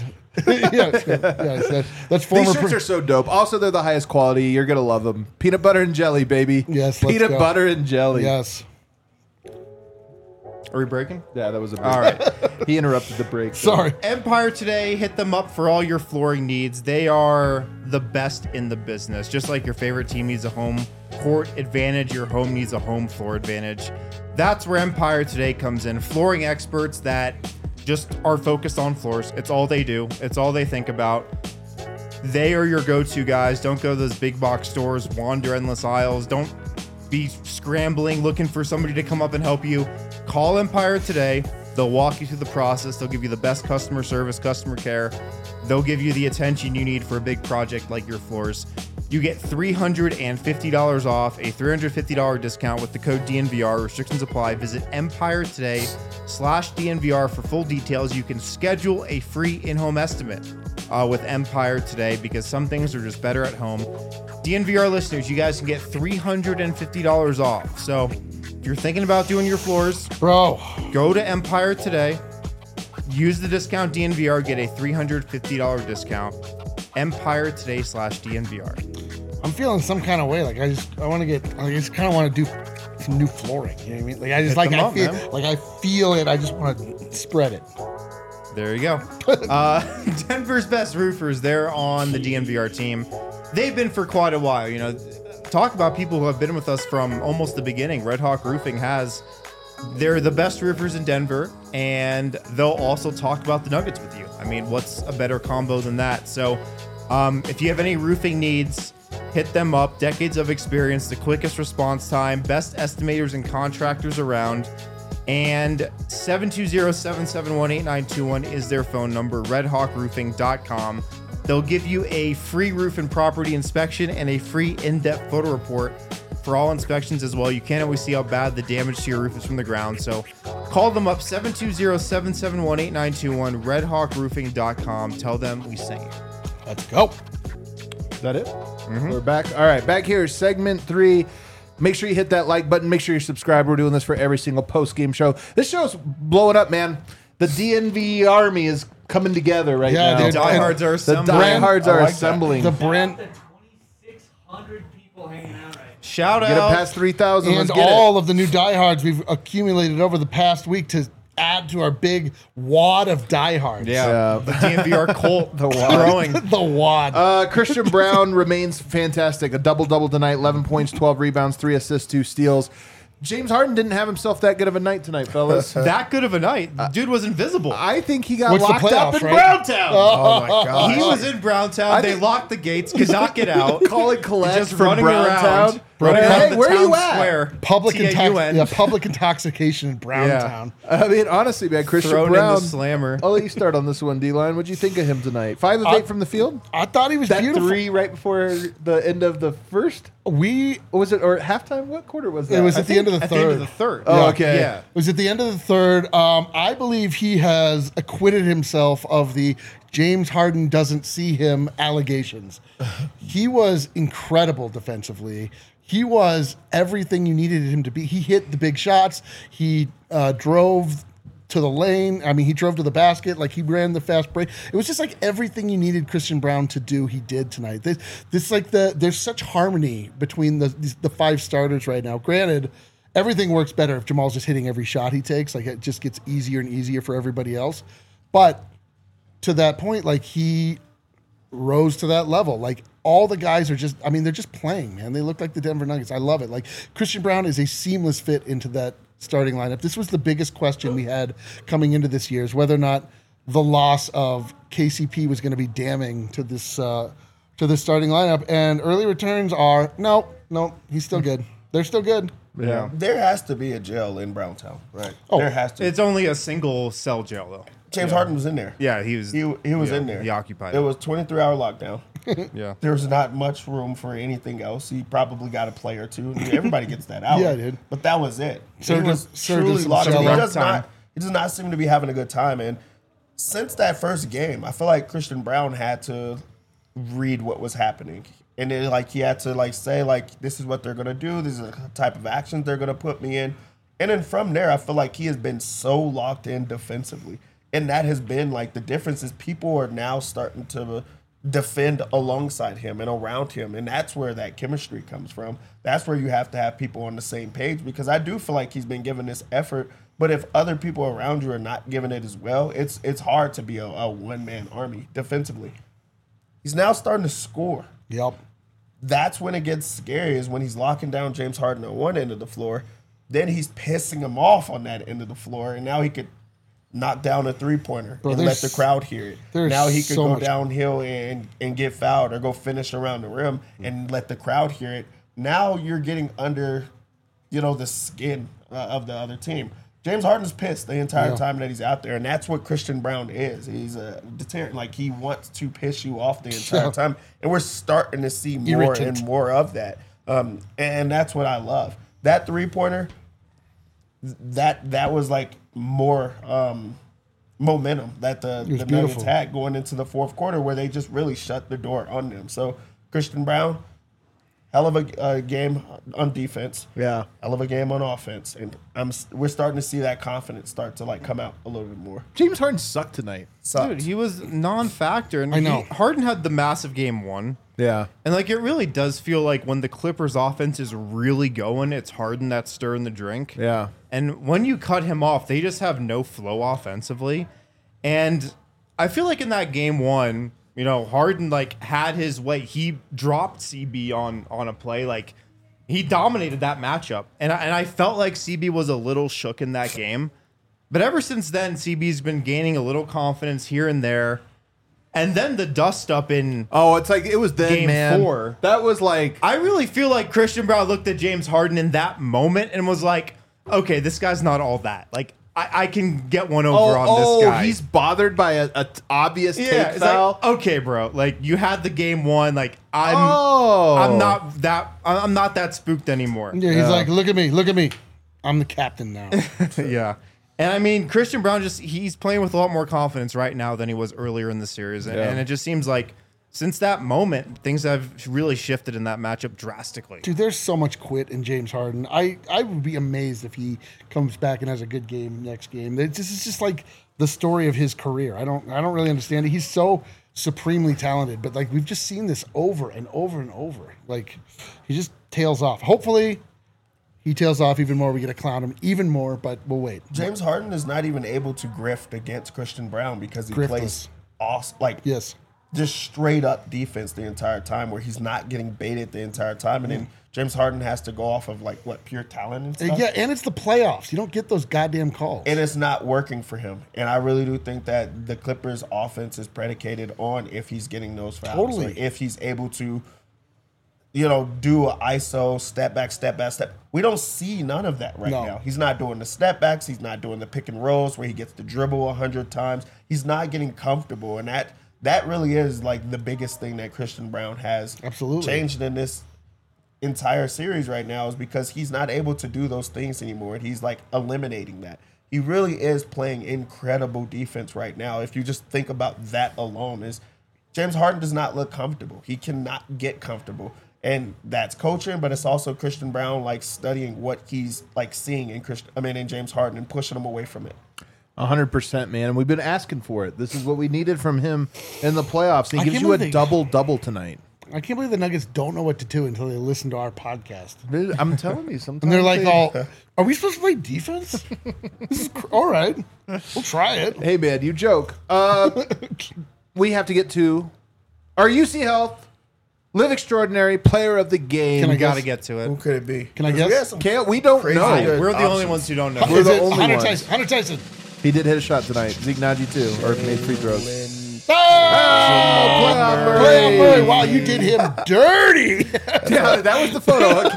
that's former. These shirts are so dope. Also, they're the highest quality. You're going to love them. Peanut butter and jelly, baby. Yes, let's Peanut go. butter and jelly. Yes. Are we breaking? Yeah, that was a break. All right. He interrupted the break. Sorry. Empire Today, hit them up for all your flooring needs. They are the best in the business. Just like your favorite team needs a home court advantage, your home needs a home floor advantage. That's where Empire Today comes in. Flooring experts that just are focused on floors. It's all they do. It's all they think about. They are your go-to guys. Don't go to those big box stores, wander endless aisles. Don't be scrambling, looking for somebody to come up and help you. Call Empire Today. They'll walk you through the process. They'll give you the best customer service, customer care. They'll give you the attention you need for a big project like your floors. You get $350 off, a $350 discount with the code DNVR. Restrictions apply. Visit Empire Today/DNVR for full details. You can schedule a free in-home estimate with Empire Today because some things are just better at home. DNVR listeners, you guys can get $350 off. So if you're thinking about doing your floors, Bro. go to Empire Today, use the discount DNVR, get a $350 discount. Empire Today/DNVR. I'm feeling some kind of way. Like I just kind of want to do some new flooring. You know what I mean? Like I just Hit them up, man. I feel it. I just want to spread it. There you go. Denver's best roofers, they're on the DNVR team. They've been for quite a while. You know, talk about people who have been with us from almost the beginning. Red Hawk Roofing they're the best roofers in Denver, and they'll also talk about the Nuggets with you. I mean, what's a better combo than that? So if you have any roofing needs, hit them up. Decades of experience, the quickest response time, best estimators and contractors around. And 720-771-8921 is their phone number, redhawkroofing.com. They'll give you a free roof and property inspection and a free in-depth photo report for all inspections as well. You can't always see how bad the damage to your roof is from the ground. So call them up, 720-771-8921, redhawkroofing.com. Tell them we sent you. Let's go. Is that it? We're back. All right, back here, segment 3. Make sure you hit that like button. Make sure you're subscribed. We're doing this for every single post-game show. This show's blowing up, man. The DNV army is coming together right Yeah, now. dude. Diehards are The assembling. diehards are I like that. assembling. The brand 2,600 people hanging out right now. Shout Get it out. past 3,000. and Let's get all of the new diehards we've accumulated over the past week to add to our big wad of diehards. Yeah, the DNVR Colt growing. The wad. Christian Brown remains fantastic. A double-double tonight, 11 points, 12 rebounds, 3 assists, 2 steals. James Harden didn't have himself that good of a night tonight, fellas. That good of a night. The dude was invisible. I think he got What's the locked up playoffs, in right? Browntown. Oh my god. He was in Browntown. I They think- locked the gates, could not get out. Calling collect Just from running Browntown. around. Running Hey, around the where are you town at? square. public, TAUN. public intoxication in Browntown. I mean, honestly, man, Christian Thrown in Brown. the slammer. I'll let you start on this one, D-Line. What'd you think of him tonight? 5 of 8 from the field? I thought he was That beautiful. 3 right before the end of the first? Or was it, or halftime? What quarter was that? It was I at the think- end of the At the end of third. the third. Oh, Yeah. okay. Yeah. It was at the end of the third. I believe he has acquitted himself of the James Harden doesn't see him allegations. He was incredible defensively. He was everything you needed him to be. He hit the big shots. He drove to the lane. I mean, he drove to the basket. Like, he ran the fast break. It was just like everything you needed Christian Brown to do, he did tonight. There's such harmony between the 5 starters right now. Granted, everything works better if Jamal's just hitting every shot he takes. Like, it just gets easier and easier for everybody else. But to that point, like, he rose to that level. Like all the guys are just, I mean, they're just playing, man. They look like the Denver Nuggets. I love it. Like Christian Braun is a seamless fit into that starting lineup. This was the biggest question we had coming into this year, is whether or not the loss of KCP was going to be damning to this starting lineup. And early returns are no, he's still good. They're still good. Yeah. There has to be a jail in Browntown, right? Oh, there has to. It's only a single cell jail, though. James Harden was in there. Yeah, he was. He was in there. He occupied It it. was 23-hour lockdown. Yeah. There was not much room for anything else. He probably got a play or two. Everybody gets that out. Yeah, dude. But that was it. Served He was him- served him truly some locked in. jello. He does not seem to be having a good time. And since that first game, I feel like Christian Braun had to read what was happening. And then, like, he had to, like, say, like, this is what they're going to do. This is the type of actions they're going to put me in. And then from there, I feel like he has been so locked in defensively. And that has been, like, the difference is people are now starting to defend alongside him and around him. And that's where that chemistry comes from. That's where you have to have people on the same page, because I do feel like he's been given this effort. But if other people around you are not giving it as well, it's hard to be a one-man army defensively. He's now starting to score. Yep. That's when it gets scary, is when he's locking down James Harden on one end of the floor. Then he's pissing him off on that end of the floor. And now he could knock down a three-pointer and let the crowd hear it. Now he could go downhill and get fouled or go finish around the rim and let the crowd hear it. Now you're getting under, the skin of the other team. James Harden's pissed the entire time that he's out there, and that's what Christian Braun is. He's a deterrent. Like, he wants to piss you off the entire time, and we're starting to see more and more of that. And that's what I love. That three-pointer, that was like more momentum that the Nuggets had going into the fourth quarter, where they just really shut the door on them. So Christian Braun, hell of a game on defense. Yeah. Hell of a game on offense. And we're starting to see that confidence start to, like, come out a little bit more. James Harden sucked tonight. Dude, he was non-factor. And I know. Harden had the massive game one. Yeah. And, like, it really does feel like when the Clippers offense is really going, it's Harden that's stirring the drink. Yeah. And when you cut him off, they just have no flow offensively. And I feel like in that game one, Harden, like, had his way. He dropped CB on a play. Like, he dominated that matchup. And I felt like CB was a little shook in that game. But ever since then, CB's been gaining a little confidence here and there. And then the dust up in it's like it was then, game man. 4. That was like, I really feel like Christian Braun looked at James Harden in that moment and was like, okay, this guy's not all that. Like, I can get one over on this guy. He's bothered by a obvious take it's foul. like, okay, bro. Like, you had the game one. Like, I'm not that spooked anymore. Yeah, he's like, look at me. I'm the captain now. Yeah. And I mean, Christian Braun he's playing with a lot more confidence right now than he was earlier in the series. And it just seems like since that moment, things have really shifted in that matchup drastically. Dude, there's so much quit in James Harden. I would be amazed if he comes back and has a good game next game. This is just like the story of his career. I don't really understand it. He's so supremely talented, but like we've just seen this over and over and over. Like he just tails off. Hopefully he tails off even more. We get to clown him even more, but we'll wait. James Harden is not even able to grift against Christian Braun because he plays awesome, just straight up defense the entire time, where he's not getting baited the entire time. And then James Harden has to go off of pure talent and stuff. Yeah, and it's the playoffs. You don't get those goddamn calls. And it's not working for him. And I really do think that the Clippers offense is predicated on if he's getting those fouls. Totally. Like if he's able to, do an ISO, step back. We don't see none of that right now. He's not doing the step backs. He's not doing the pick and rolls where he gets to dribble 100 times. He's not getting comfortable. And that really is like the biggest thing that Christian Braun has changed in this entire series right now, is because he's not able to do those things anymore. And he's like eliminating that. He really is playing incredible defense right now. If you just think about that alone, is James Harden does not look comfortable. He cannot get comfortable. And that's coaching, but it's also Christian Braun like studying what he's like seeing in James Harden and pushing him away from it. 100%, man. And we've been asking for it. This is what we needed from him in the playoffs. And he gives you a double-double tonight. I can't believe the Nuggets don't know what to do until they listen to our podcast. I'm telling you, sometimes. And they're like, are we supposed to play defense? This is all right. We'll try it. Hey, man, you joke. We have to get to Our UC Health Live Extraordinary Player of the Game. Can I We got to guess? get to Who it. could it be? Can I 'Cause we guess? had some Kale, we don't crazy know. good We're the only options. ones who don't know. We're Is the it only Hunter ones. Tyson? Hunter Tyson. He did hit a shot tonight. Zeke Naji too, or made free throws. Play on Murray. Wow, you did him dirty. Yeah, that was the photo.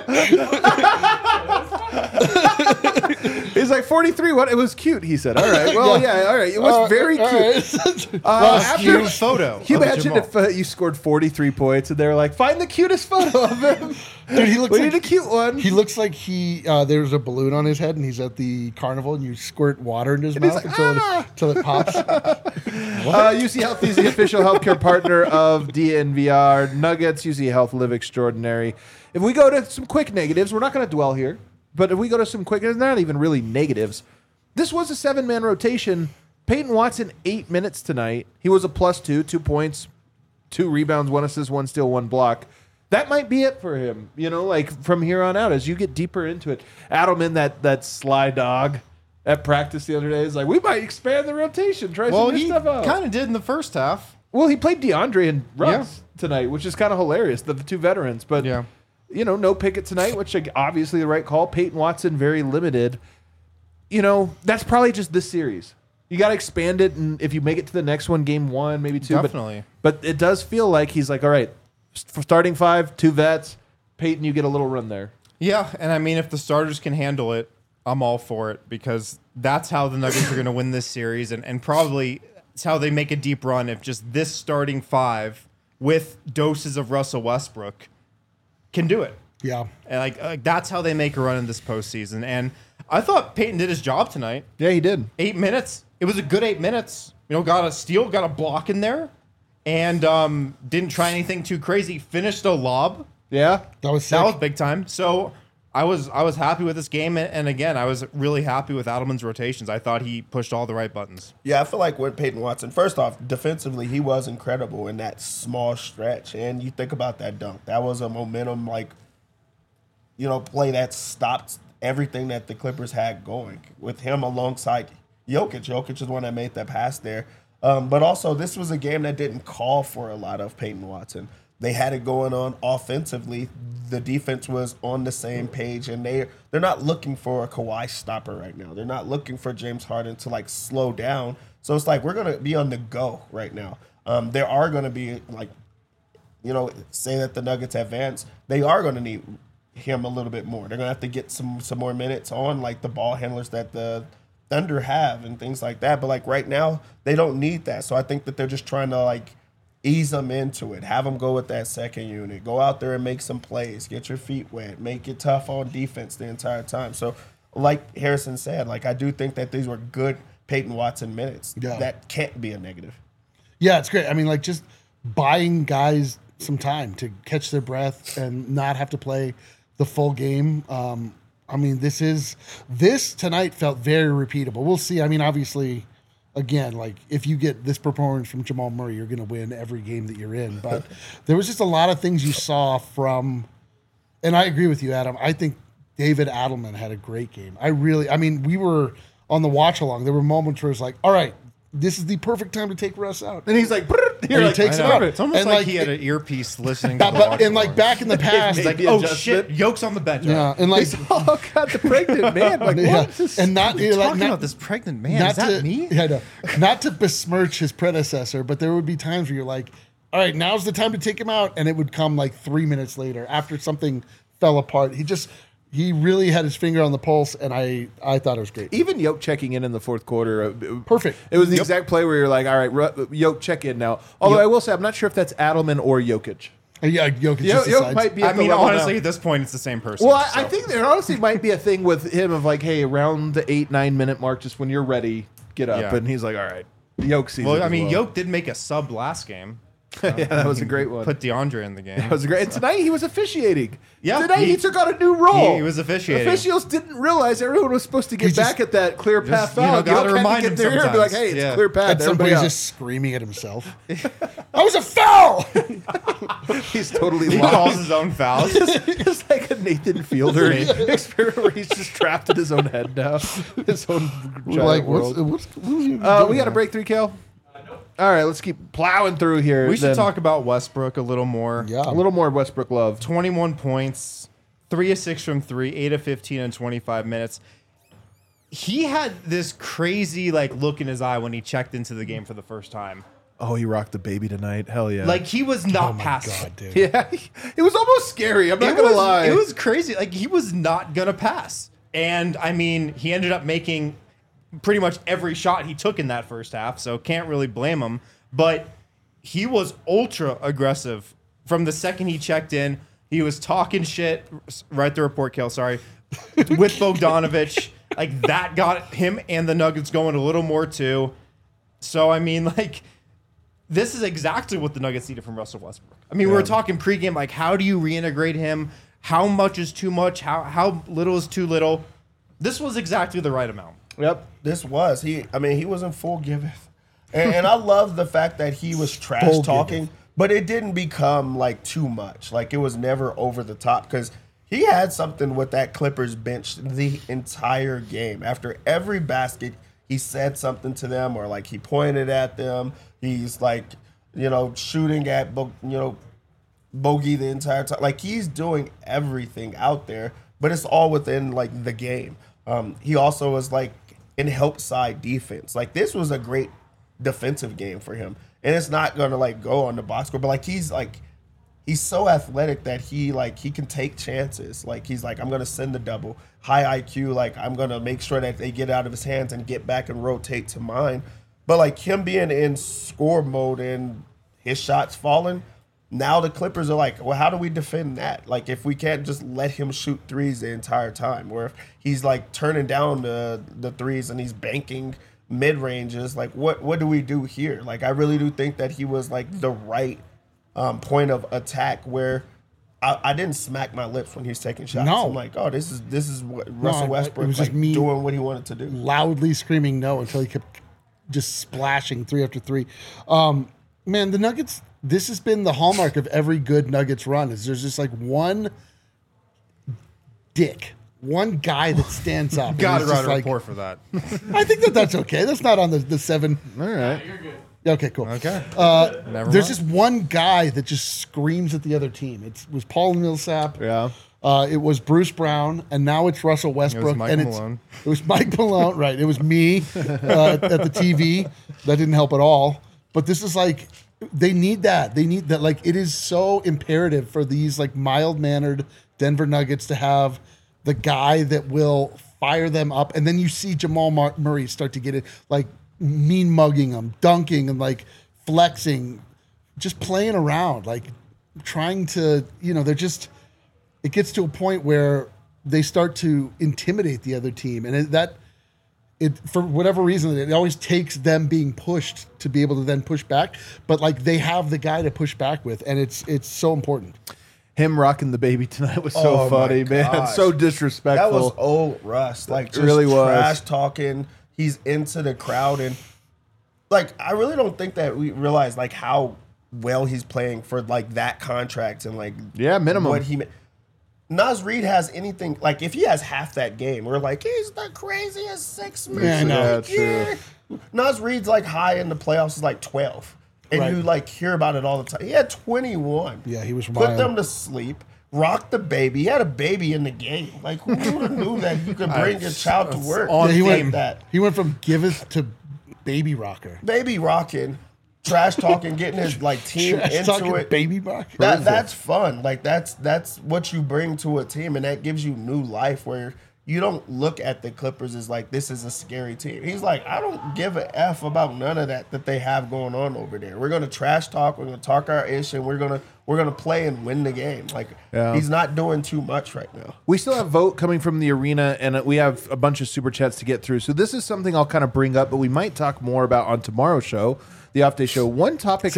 He's like 43. What? It was cute. He said. All right. Well, yeah. All right. It was very cute. After Cute photo. Can you of imagine Jamal. if you scored 43 points and they were like, find the cutest photo of him? Dude, he looks We like need a cute one. He looks like there's a balloon on his head and he's at the carnival and you squirt water in his he's mouth like, until it pops. UC Health is the official healthcare partner of DNVR Nuggets. UC Health Live Extraordinary. If we go to some quick negatives, we're not going to dwell here, but if we go to some quick, it's not even really negatives. This was a 7-man rotation. Peyton Watson, 8 minutes tonight. He was a +2, 2 points, 2 rebounds, 1 assist, 1 steal, 1 block. That might be it for him, like from here on out as you get deeper into it. Adelman, that sly dog at practice the other day, is like, we might expand the rotation, try Well, some new he stuff out. kind of did in the first half. Well, he played DeAndre and Russ tonight, which is kind of hilarious, the two veterans. But, Yeah. No Pickett tonight, which obviously the right call. Peyton Watson, very limited. That's probably just this series. You got to expand it, and if you make it to the next one, game 1, maybe 2. Definitely. But it does feel like he's like, all right, for starting 5, 2 vets. Peyton, you get a little run there. Yeah, and I mean, if the starters can handle it, I'm all for it because that's how the Nuggets are going to win this series, and probably it's how they make a deep run if just this starting 5 with doses of Russell Westbrook can do it. Yeah. And like that's how they make a run in this postseason. And I thought Peyton did his job tonight. Yeah, he did. 8 minutes. It was a good 8 minutes. Got a steal, got a block in there, and didn't try anything too crazy. Finished a lob. Yeah. That was sick. That was big time. So I was happy with this game, and again, I was really happy with Adelman's rotations. I thought he pushed all the right buttons. Yeah, I feel like with Peyton Watson, first off, defensively, he was incredible in that small stretch. And you think about that dunk. That was a momentum, play that stopped everything that the Clippers had going with him alongside Jokic. Jokic is the one that made that pass there. But also, this was a game that didn't call for a lot of Peyton Watson. They had it going on offensively. The defense was on the same page, and they're not looking for a Kawhi stopper right now. They're not looking for James Harden to slow down. So it's like we're gonna be on the go right now. There are gonna be say that the Nuggets advance, they are gonna need him a little bit more. They're gonna have to get some more minutes on the ball handlers that the Thunder have and things like that. But right now they don't need that. So I think that they're just trying to ease them into it, have them go with that second unit, go out there and make some plays, get your feet wet, make it tough on defense the entire time. So like Harrison said, I do think that these were good Peyton Watson minutes. Yeah. That can't be a negative. Yeah, it's great. I mean, just buying guys some time to catch their breath and not have to play the full game. I mean, this tonight felt very repeatable. We'll see. I mean, obviously, again, if you get this performance from Jamal Murray, you're going to win every game that you're in. But there was just a lot of things you saw from, and I agree with you, Adam. I think David Adelman had a great game. We were on the watch along. There were moments where it's like, all right, this is the perfect time to take Russ out. And he's like, And he takes I it know. out. It's almost And, like he had an earpiece listening to the watch and along. back in the past, He's like, the oh adjustment. shit, Yoke's on the bench. yeah, and oh, God, the pregnant man. yeah, What is this? and not You're talking not, about this pregnant man. not Is that to, me? Yeah, no, not to besmirch his predecessor, but there would be times where you're like, all right, now's the time to take him out, and it would come 3 minutes later after something fell apart. He really had his finger on the pulse, and I thought it was great. Even Yoke checking in the fourth quarter. Perfect. It was the exact play where you're like, all right, Yoke, check in now. Although I will say, I'm not sure if that's Adelman or Jokic. Yeah, Jokic just Yoke decides. might be I at the mean, level honestly, now. at this point, it's the same person. Well, I so. think there honestly might be a thing with him of hey, around the 8-9 minute mark, just when you're ready, get up. Yeah. And he's like, all right. Yoke sees it Well, I as mean, Yoke did make a sub last game. yeah, that was a great one. Put DeAndre in the game. That was great. And tonight he was officiating. Yeah, Tonight he he- took on a new role. he was officiating. Officials didn't realize everyone was supposed to get He's back just- at that clear path foul. gotta Yoke had to remind get him there and be like, sometimes. hey, it's Yeah. clear path. And Everybody somebody's else. just screaming at himself. That was a foul. He's totally He lost. calls his own fouls. It's like a Nathan Fielder experiment where he's just trapped in his own head now. His own giant Like, world. what was he We got a break 3, Kel? Nope. All right, let's keep plowing through here. We should then. talk about Westbrook a little more. Yeah. a little more Westbrook love. 21 points, 3 of 6 from 3, 8 of 15 in 25 minutes. He had this crazy look in his eye when he checked into the game for the first time. Oh, he rocked the baby tonight. Hell yeah. Like he was not Oh my passing. God, dude. yeah, it was almost scary. I'm not going to lie. It was crazy. Like he was not gonna pass. And I mean, he ended up making pretty much every shot he took in that first half, so can't really blame him. But he was ultra aggressive from the second he checked in. He was talking shit. Write the report, Kel. Sorry, with Bogdanovich. Like that got him and the Nuggets going a little more too. So I mean, this is exactly what the Nuggets needed from Russell Westbrook. I mean, we were talking pregame, how do you reintegrate him? How much is too much? How little is too little? This was exactly the right amount. Yep, this was. He was in full giveth. And I love the fact that he was trash talking, but it didn't become too much. It was never over the top because he had something with that Clippers bench the entire game. After every basket, he said something to them or he pointed at them. He's shooting at Bogey the entire time. He's doing everything out there, but it's all within the game. He also was in help side defense. This was a great defensive game for him, and it's not gonna go on the box score, but he's so athletic that he can take chances. I'm gonna send the double, high IQ. I'm gonna make sure that they get out of his hands and get back and rotate to mine. But him being in score mode and his shots falling, now the Clippers are well, how do we defend that? If we can't just let him shoot threes the entire time, or if he's turning down the threes and he's banking mid ranges, what do we do here? I really do think that he was the right point of attack where I didn't smack my lips when he was taking shots. No. I'm oh, this is what Russell Westbrook it was just me doing what he wanted to do. Loudly screaming no until he kept just splashing 3 after 3. Man, the Nuggets, this has been the hallmark of every good Nuggets run is there's just one one guy that stands up. Got to and write a just report for that. I think that's okay. That's not on the 7. All right. You're good. Okay, cool. Okay. Never There's mind. just one guy that just screams at the other team. It was Paul Millsap. Yeah. It was Bruce Brown, and now it's Russell Westbrook. Mike and Malone. It was Mike Malone, right? It was me at the TV. That didn't help at all. But this is they need that. They need that. It is so imperative for these mild-mannered Denver Nuggets to have the guy that will fire them up. And then you see Jamal Murray start to get it, mean mugging them, dunking and flexing, just playing around, trying to, they're just, it gets to a point where they start to intimidate the other team. And it for whatever reason, it always takes them being pushed to be able to then push back. But they have the guy to push back with, and it's so important. Him rocking the baby tonight was so Oh, my funny, man. gosh. So disrespectful. That was old Russ. Just really was. trash talking. He's into the crowd. And, I really don't think that we realize, how well he's playing for, that contract and, Yeah, minimum. what he Naz Reid has anything, if he has half that game, we're he's the craziest 6 man. Yeah, I know. Yeah, true. Naz Reid's, high in the playoffs is 12. And Right. you, hear about it all the time. He had 21. Yeah, he was Put wild. them to sleep. Rock the baby. He had a baby in the game. Who would have knew that you could bring your child to work on Yeah, he like went that? He went from giveth to baby rocker. Baby rocking, trash talking, getting his team Trash into talking it. baby rocker. That's fun. That's what you bring to a team, and that gives you new life where you don't look at the Clippers as this is a scary team. He's I don't give a F about none of that they have going on over there. We're gonna trash talk, we're gonna talk our ish, and we're gonna play and win the game. Yeah. He's not doing too much right now. We still have vote coming from the arena, and we have a bunch of super chats to get through. So this is something I'll kind of bring up, but we might talk more about on tomorrow's show, the off day show. One topic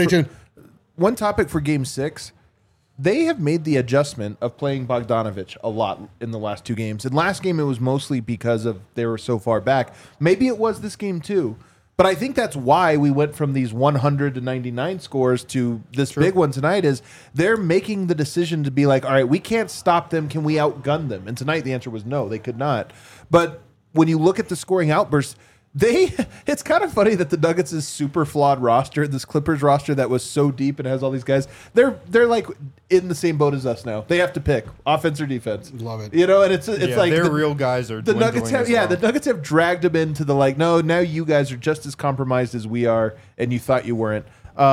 for Game 6. They have made the adjustment of playing Bogdanovich a lot in the last 2 games. And last game, it was mostly because of they were so far back. Maybe it was this game too. But I think that's why we went from these 100 to 99 scores to this big one tonight is they're making the decision to be all right, we can't stop them. Can we outgun them? And tonight the answer was no, they could not. But when you look at the scoring outbursts, It's kind of funny that the Nuggets' super flawed roster, this Clippers roster that was so deep and has all these guys, they're like in the same boat as us now. They have to pick offense or defense. Love it. You know, and it's like their real guys are the Nuggets have dwindling as well. the Nuggets have dragged them into the like, no, now you guys are just as compromised as we are, and you thought you weren't.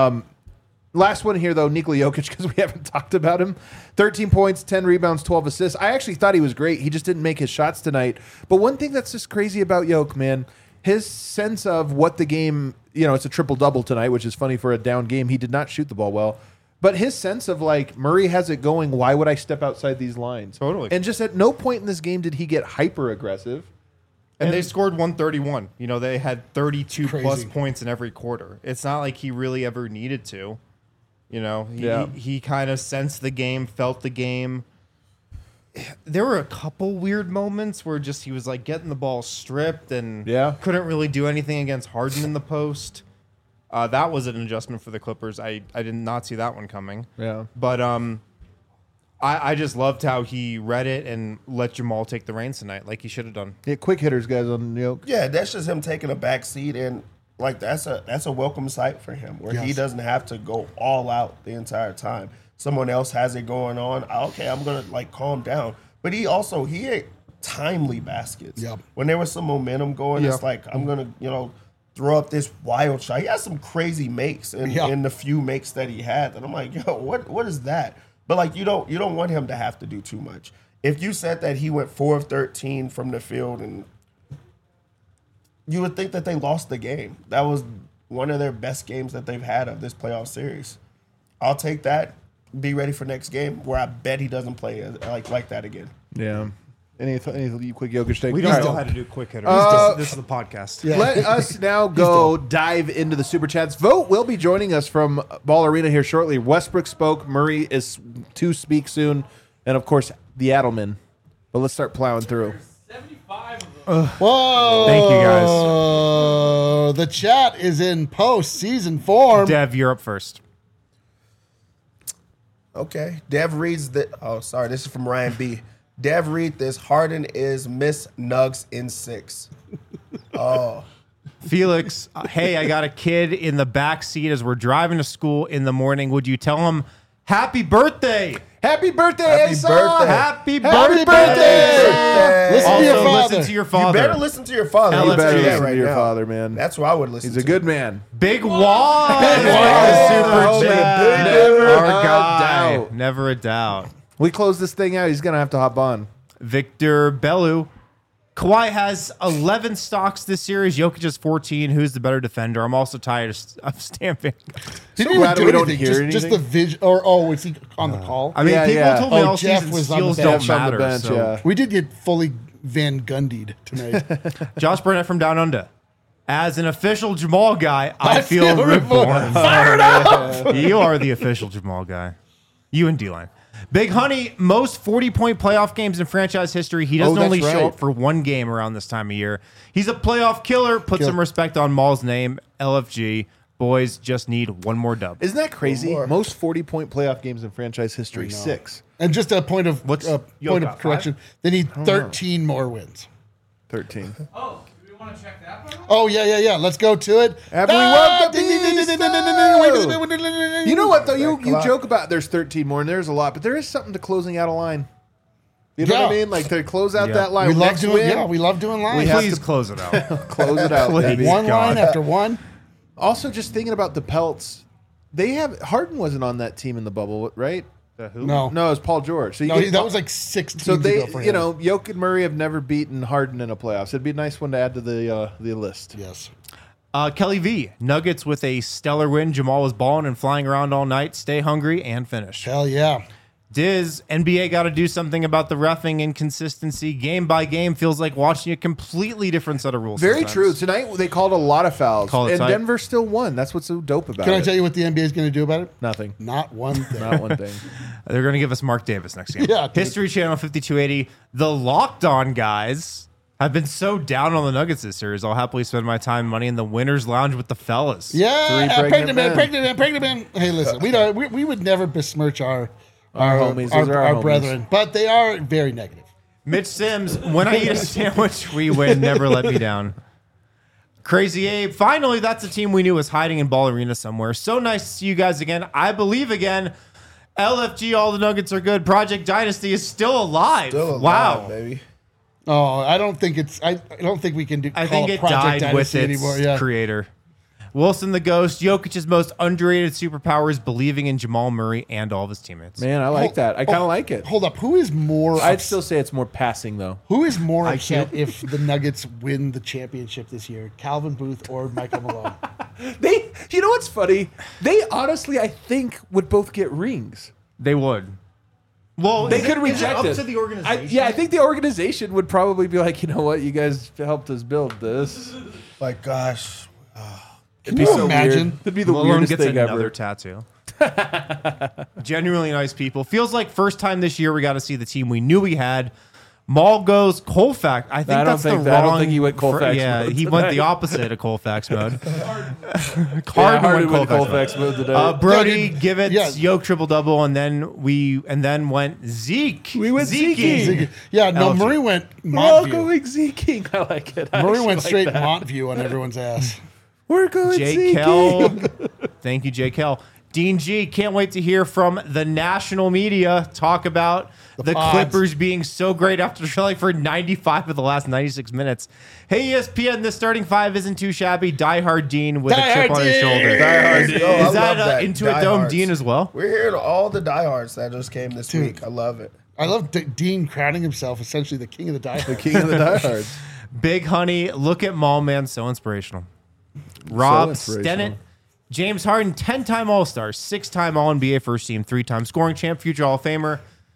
Last one here, though, Nikola Jokic, because we haven't talked about him. 13 points, 10 rebounds, 12 assists. I actually thought he was great. He just didn't make his shots tonight. But one thing that's just crazy about Jokic, man, his sense of what the game, it's a triple-double tonight, which is funny for a down game. He did not shoot the ball well. But his sense of, like, Murray has it going, why would I step outside these lines? Totally. And just at no point in this game did he get hyper-aggressive. And they scored 131. They had 32 plus Crazy. points in every quarter. It's not like he really ever needed to. Yeah. He kind of sensed the game, felt the game. There were a couple weird moments where just he was like getting the ball stripped and couldn't really do anything against Harden in the post. That was an adjustment for the Clippers. I did not see that one coming. Yeah. But I just loved how he read it and let Jamal take the reins tonight like he should have done. Yeah, quick hitters, guys, on Jokic. Yeah, that's just him taking a back seat, and like that's a welcome sight for him, where he Yes. doesn't have to go all out the entire time. Someone else has it going on. Okay, I'm gonna like calm down. But he had timely baskets. Yep. When there was some momentum going, it's like I'm gonna throw up this wild shot. He had some crazy makes in the few makes that he had. And I'm like, yo, what is that? But like you don't want him to have to do too much. If you said that he went 4 of 13 from the field, and you would think that they lost the game. That was one of their best games that they've had of this playoff series. I'll take that. Be ready for next game, where I bet he doesn't play like that again. Yeah. Any quick Jokic take? We don't All right. know how to do quick hitters. This is the podcast. Yeah. Let us now go dive into the super chats. Vote will be joining us from Ball Arena here shortly. Westbrook spoke. Murray is to speak soon, and of course the Adelman. But let's start plowing through. 75 of them. Whoa. Thank you, guys. The chat is in post-season form. Dev, you're up first. Okay. Dev reads that. Oh, sorry. This is from Ryan B. Dev read this. Harden is Miss Nugs in 6. Oh. Felix, hey, I got a kid in the back seat as we're driving to school in the morning. Would you tell him happy birthday? Happy birthday, Happy Asa! birthday. Happy Happy birthday! birthday! Listen to your Also, father. listen to your You father. better listen to your father. LFG. You You better do that listen right to your now. father, man. That's what I would listen He's to. a good man. Big Wad! Oh, Super chat. never Our a guy. doubt. Never a doubt. We close this thing out. He's gonna have to hop on. Victor Bellu. Kawhi has 11 stocks this series. Jokic has 14. Who's the better defender? I'm also tired of stamping. He didn't glad even do we don't anything. hear Just the anything. vision. Was he on the call? I mean, Yeah, people yeah. told me Oh, all Jeff season was on the steals bench. don't Jeff's on matter. the bench, so. yeah. We did get fully Van Gundied tonight. Josh Burnett from Down Under. As an official Jamal guy, I feel reborn. Fire it up! You are the official Jamal guy. You and D-Line. Big Honey, most 40-point playoff games in franchise history. He doesn't that's only show right. up for one game around this time of year. He's a playoff killer. Put some respect on Maul's name. LFG. Boys just need one more dub. Isn't that crazy? more. Most 40-point playoff games in franchise history. 6. And just a point of What's- point of correction. They need 13 more wins. 13. Oh, do we want to check that by the way? Oh yeah. Let's go to it. Everyone, Ding, ding, ding, ding, ding, ding, ding, the ding, ding, ding. You know what though? You clock. joke about there's 13 more, and there's a lot, but there is something to closing out a line. You know what I Yeah. mean? Like to close out Yeah. that line. We love Next doing. win, Yeah, we love doing lines. have Please to- close it out. close it out, Please. baby. One God. line after one. Also, just thinking about the Pelts, they have Harden wasn't on that team in the bubble, right? No, No, it was Paul George. So you no, get- that was like 6 teams so they, ago for him. you know, Jokic and Murray have never beaten Harden in a playoffs. It'd be a nice one to add to the list. Yes. Kelly V. Nuggets with a stellar win. Jamal was balling and flying around all night. Stay hungry and finish. Hell yeah. Diz, NBA got to do something about the reffing inconsistency. Game by game feels like watching a completely different set of rules. Very sometimes. true. Tonight they called a lot of fouls, Call it and tight. Denver still won. That's what's so dope about Can it. I tell you what the NBA is going to do about it? Nothing. Not one thing. Not one thing. They're going to give us Mark Davis next game. Yeah, dude. History Channel 5280. The Locked On guys have been so down on the Nuggets this series. I'll happily spend my time and money in the winner's lounge with the fellas. Yeah, Three pregnant men. pregnant man. Hey, listen, we would never besmirch our homies. Those are our homies. brethren, but they are very negative. Mitch Sims, when I eat a sandwich, we win. Never let me down. Crazy Abe. Finally, that's a team we knew was hiding in Ball Arena somewhere. So nice to see you guys again. I believe again. LFG, all the Nuggets are good. Project Dynasty is still alive. Wow, baby. Oh, I don't think it's. I don't think we can do. I think it died with its creator. Wilson the Ghost. Jokic's most underrated superpower is believing in Jamal Murray and all of his teammates. Man, I like that. I kind of like it. Hold up. Who is more? I'd still say it's more passing though. Who is more upset if the Nuggets win the championship this year, Calvin Booth or Michael Malone? You know what's funny? They honestly, I think, would both get rings. They would. Well, they could reject it. Up to the organization. I think the organization would probably be like, you know what, you guys helped us build this. Like, gosh. Can you imagine? Weird. It'd be the Malone weirdest gets thing another ever. tattoo. Genuinely nice people. Feels like first time this year we got to see the team we knew we had. Maul goes Colfax. I think that's the wrong. I don't think he went Colfax yeah, mode he tonight. went the opposite of Colfax mode. Harden went Colfax mode today. Brody Givets, Yeah. Yoke triple double, and then went Zeke. We went Zeke. Yeah, no, LFG. Murray went We're all Montview. going Zeking. I like it. I Murray actually went like straight that. Montview on everyone's ass. We're going Jake Zeking. Kell. Thank you, Jake Kell. Dean G, can't wait to hear from the national media talk about the pods. Clippers being so great after trailing for 95 of the last 96 minutes. Hey, ESPN, the starting five isn't too shabby. Diehard Dean with a chip on his shoulder. Diehard Dean. Oh, I Is that love that. Intuit Dome Diehards. Dean as well? We're hearing all the diehards that just came this week. I love it. I love Dean crowning himself essentially the king of the die. King of the diehards. Big Honey, look at Mall Man, so inspirational. Rob inspirational. Stennett, James Harden, 10-time All-Star, 6-time All-NBA first team, 3-time scoring champ, future Hall of Famer.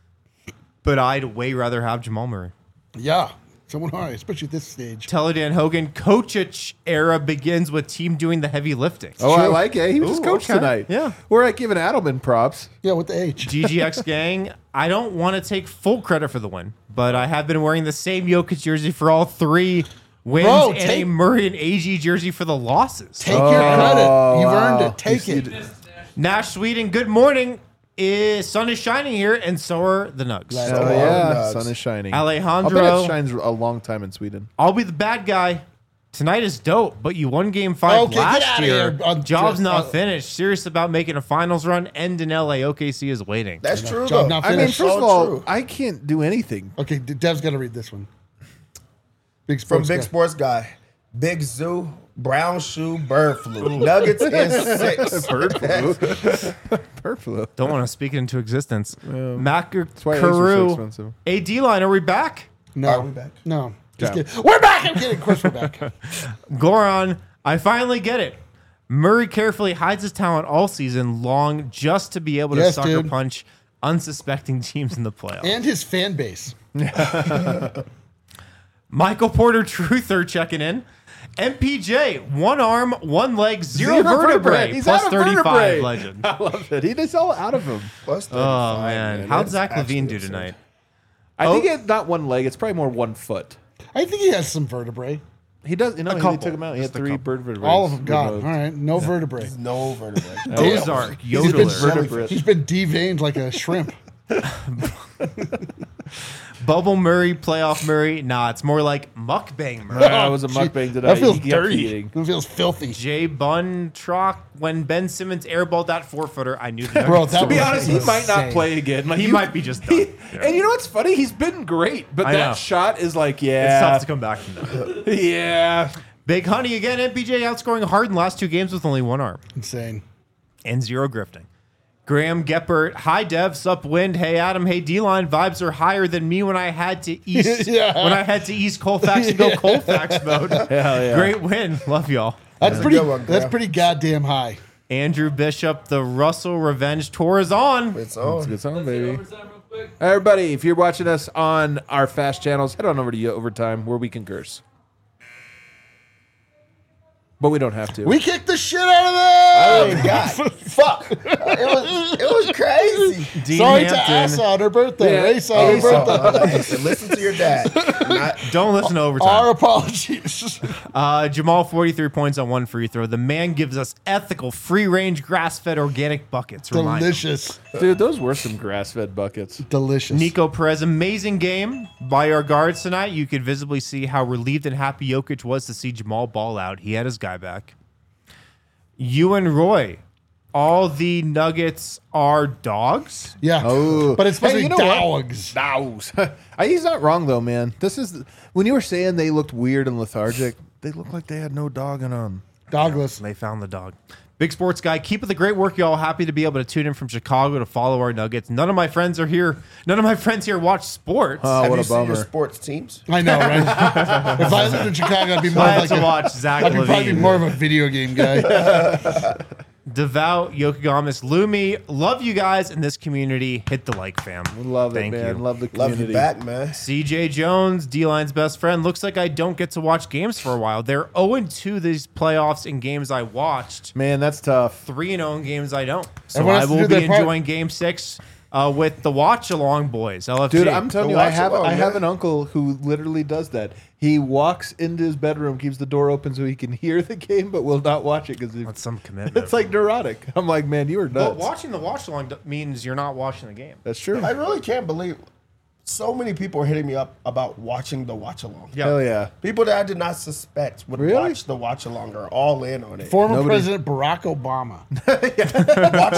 But I'd way rather have Jamal Murray. Yeah, someone high, especially at this stage. Teledan Hogan, Kočić era begins with team doing the heavy lifting. Oh, I like it. He was Ooh, just coach okay. tonight. Yeah. We're like giving Adelman props. Yeah, with the H. GGX gang, I don't want to take full credit for the win, but I have been wearing the same Jokic jersey for all 3 wins Bro, and a Murray and AG jersey for the losses. Take your credit. You've earned it. Take You it. see- Nash Sweden, good morning. Sun is shining here, and so are the Nugs. Right. Oh, So yeah. Nugs. Sun is shining. Alejandro. I'll bet it shines a long time in Sweden. I'll be the bad guy. Tonight is dope, but you won Game 5 Okay, get last outta year. here. Job's not finished. Serious about making a finals run. End in LA. OKC is waiting. That's true, Job though. not I mean, finished. first of So all, true. I can't do anything. Okay, Dev's got to read this one. Big From sports Big guy. Sports Guy. Big Zoo, brown shoe, bird flu. Nuggets in 6. Bird flu. Bird flu. Don't want to speak it into existence. Macker why eggs are so Carew. expensive. AD line, are we back? No, Are we back? No, just Yeah. kidding. We're back. I'm kidding. Of course we're back. Goran, I finally get it. Murray carefully hides his talent all season long just to be able to Yes, sucker dude. punch unsuspecting teams in the playoffs. And his fan base. Michael Porter Truther checking in. MPJ, 1 arm, 1 leg, 0 vertebrae, He's plus out of 35 vertebrae. legend. I love it. He is all out of him. Plus 35, Oh, man. How'd That's Zach Levine do absolutely tonight? I Oh. think it's not 1 leg. It's probably more 1 foot. I think he has some vertebrae. He does. You know, he couple. took him out. He had Just a 3 couple. bird vertebrae. All of them gone. All right, no vertebrae. insane. No vertebrae. Ozark, He's been, Yodeler. vertebrate. he's been deveined like a shrimp. Bubble Murray, playoff Murray. Nah, it's more like mukbang Murray. That was a Gee, mukbang today. That feels He kept dirty. eating. That feels filthy. Jay Bun Trock, when Ben Simmons airballed that 4-footer, I knew the Bro, Nuggets that To be was honest, he might not insane. play again. Like He might be just done. And you know what's funny? He's been great, but I that know. shot is like, It's yeah, tough to come back from that. yeah. Big Honey again. MPJ outscoring Harden last 2 games with only 1 arm Insane. and 0 grifting. Graham Geppert, hi Dev, sup Wind, hey Adam, hey D-Line. Vibes are higher than me when I had to East Yeah. when I had to East Colfax and go Colfax mode. Hell yeah. Great win, love y'all. That's a pretty. good one, That's Graham. pretty goddamn high. Andrew Bishop, the Russell Revenge tour is on. It's on. Good song, baby. Overtime real quick. Everybody, if you're watching us on our fast channels, head on over to Overtime where we can curse. But we don't have to. We kicked the shit out of them. Oh, God. Fuck. It was crazy. crazy. Dean Sorry to Hampton. Asa on her birthday. Yeah. Race on her birthday. Listen, listen to your dad. Don't listen to Our overtime. apologies. Jamal, 43 points on one free throw. The man gives us ethical, free-range, grass-fed organic buckets. Remind him. Delicious. Dude, those were some grass-fed buckets. Delicious. Nico Perez, amazing game by our guards tonight. You could visibly see how relieved and happy Jokic was to see Jamal ball out. He had his guy back. You and Roy, all the Nuggets are dogs. Yeah. Oh. But it's supposed Hey, to you be know what? dogs. Dogs. He's not wrong, though, man. This is when you were saying they looked weird and lethargic, they looked like they had no dog in them. Dogless. They found the dog. Big sports guy, keep up the great work, y'all. Happy to be able to tune in from Chicago to follow our Nuggets. None of my friends are here. None of my friends here watch sports. Oh, Have what you a seen your bummer. sports teams? I know, right? If I lived in Chicago, I'd be more I had like to watch Zach I'd probably be Levine. more of a video game guy. Devout, Yokogamis, Lumi. Love you guys in this community. Hit the like, fam. Love Thank it, man. you. Love the Love community. you back, man. CJ Jones, D-Line's best friend. Looks like I don't get to watch games for a while. They're 0-2 these playoffs in games I watched. Man, that's tough. 3-0 in games I don't. So Everyone I has to will do be their part. enjoying Game 6 with the watch along boys. LFG. Dude, I'm telling you, Go I watch have along, I have man. an uncle who literally does that. He walks into his bedroom, keeps the door open so he can hear the game, but will not watch it because That's some commitment. it's like neurotic. I'm like, man, you are nuts. But watching the watch along means you're not watching the game. That's true. I really can't believe so many people are hitting me up about watching the watch along. Yeah. Hell yeah. People that I did not suspect would Really? watch the watch along are all in on it. Former Nobody- President Barack Obama. Watch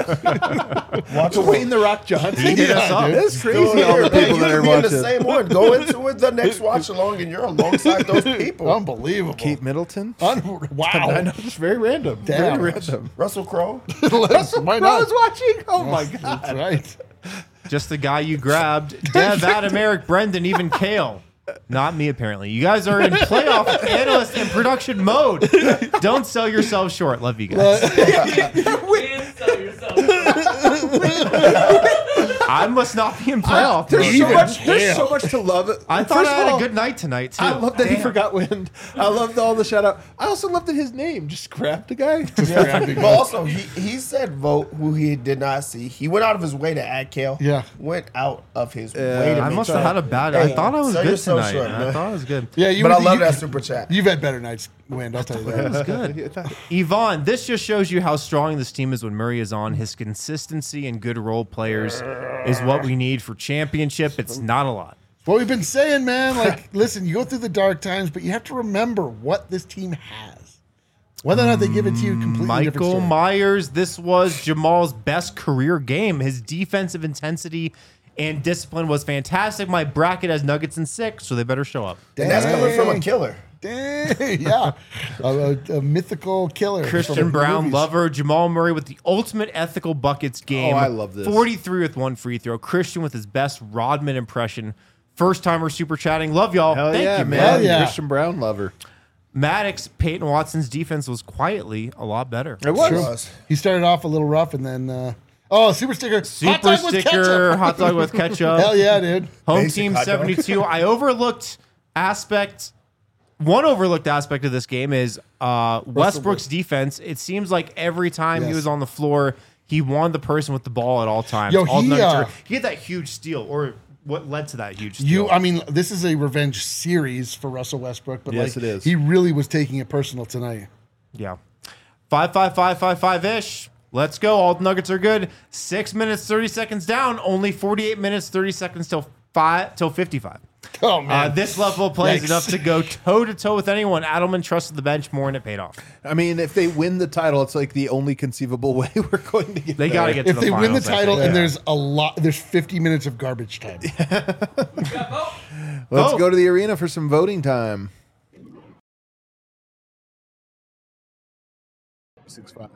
along. Watch along. Wayne the Rock Johnson. He hit us up. It's Still crazy all the here, man. people that You are be in the watching. same one. Go into it the next watch along, and you're alongside those people. Unbelievable. Kate Middleton. Wow. I know, just very random. Damn. Very random. Russell Crowe. Why I not? was watching. Oh my god. That's right. Just the guy you grabbed. Dev, Adam, Eric, Brendan, even Kale. Not me, apparently. You guys are in playoff analyst and production mode. Don't sell yourselves short. Love you guys. And sell yourself. I must not be in playoff There's mode. so Even much. There's Kale. so much to love. I thought First I of had all, a good night tonight, too. I love that he Damn. forgot wind. I loved all the shout out. I also loved that his name just grabbed a guy. But also, he said vote who he did not see. He went out of his way to add Kale. Yeah. Went out of his way to I make must have sure. had a bad. I Hey, thought I was sell good yourself tonight. short, I man. thought I was good. Yeah, you But I you- love that super chat. You've had better nights, Wind. I'll tell you that. Good. Yvonne, this just shows you how strong this team is when Murray is on. His consistency and good role players is what we need for championship. It's not a lot. What we've been saying, man, like, listen, you go through the dark times, but you have to remember what this team has. Whether or not they give it to you, completely different Michael story. Myers, this was Jamal's best career game. His defensive intensity and discipline was fantastic. My bracket has Nuggets in 6, so they better show up. And that's coming from a killer. Dang, yeah. A mythical killer. Christian from the Brown, movies. lover. Jamal Murray with the ultimate ethical buckets game. Oh, I love this. 43 with one free throw. Christian with his best Rodman impression. First timer super chatting. Love y'all. Hell Thank yeah, you, man. Hell yeah. Christian Brown lover. Maddox, Peyton Watson's defense was quietly a lot better. It was. Was. He started off a little rough and then, super sticker. Hot Super dog with sticker, ketchup. hot dog with ketchup. Hell yeah, dude. Home Basic team hot dog. 72. I overlooked one overlooked aspect of this game is Westbrook's defense. It seems like every time he Yes. was on the floor, he wanted the person with the ball at all times. Yo, All he, Nuggets uh, are- he had that huge steal, or what led to that huge steal. I mean, this is a revenge series for Russell Westbrook, but Yes, like, it is. he really was taking it personal tonight. Yeah. 5-5-5-5-5-ish. Let's go. All the Nuggets are good. 6 minutes, 30 seconds down. Only 48 minutes, 30 seconds till 55. Oh man, This level of play is Yikes. enough to go toe-to-toe with anyone. Adelman trusted the bench more, and it paid off. I mean, if they win the title, it's like the only conceivable way we're going to get. They got to there. get to if the they win the finals, I title think. and there's 50 minutes of garbage time. Let's Vote. go to the arena for some voting time. 6-5.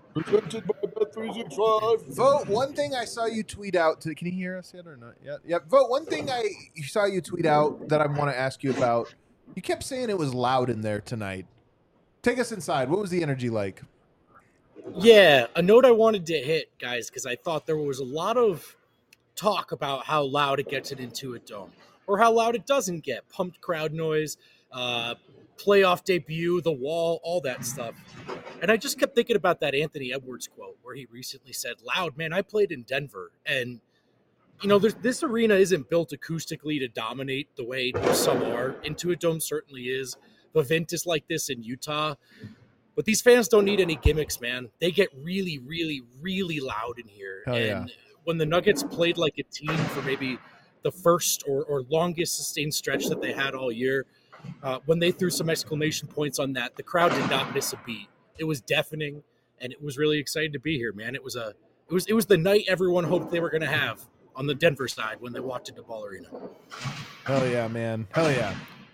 Vote one thing I saw you tweet out. Can you hear us yet or not? Yep. Vote one thing I saw you tweet out that I want to ask you about. You kept saying it was loud in there tonight. Take us inside. What was the energy like? Yeah, a note I wanted to hit, guys, because I thought there was a lot of talk about how loud it gets it into a dome or how loud it doesn't get. Pumped crowd noise, playoff debut, the wall, all that stuff. And I just kept thinking about that Anthony Edwards quote where he recently said, "Loud, man, I played in Denver." And, this arena isn't built acoustically to dominate the way some are. Intuit Dome certainly is. Vivint is like this in Utah. But these fans don't need any gimmicks, man. They get really, really, really loud in here. Hell yeah. And when the Nuggets played like a team for maybe the first or longest sustained stretch that they had all year, when they threw some exclamation points on that, the crowd did not miss a beat. It was deafening, and it was really exciting to be here, man. It was the night everyone hoped they were going to have on the Denver side when they walked into Ball Arena. Hell yeah, man. Hell yeah.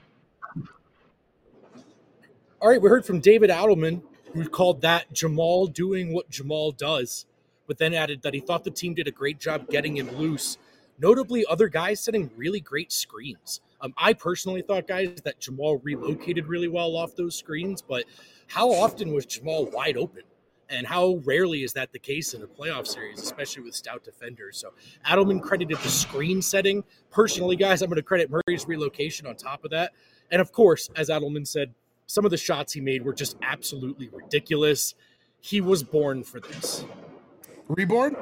All right, we heard from David Adelman, who called that Jamal doing what Jamal does, but then added that he thought the team did a great job getting him loose. Notably, other guys setting really great screens. I personally thought, guys, that Jamal relocated really well off those screens, but how often was Jamal wide open? And how rarely is that the case in a playoff series, especially with stout defenders? So Adelman credited the screen setting. Personally, guys, I'm going to credit Murray's relocation on top of that. And of course, as Adelman said, some of the shots he made were just absolutely ridiculous. He was born for this. Reborn?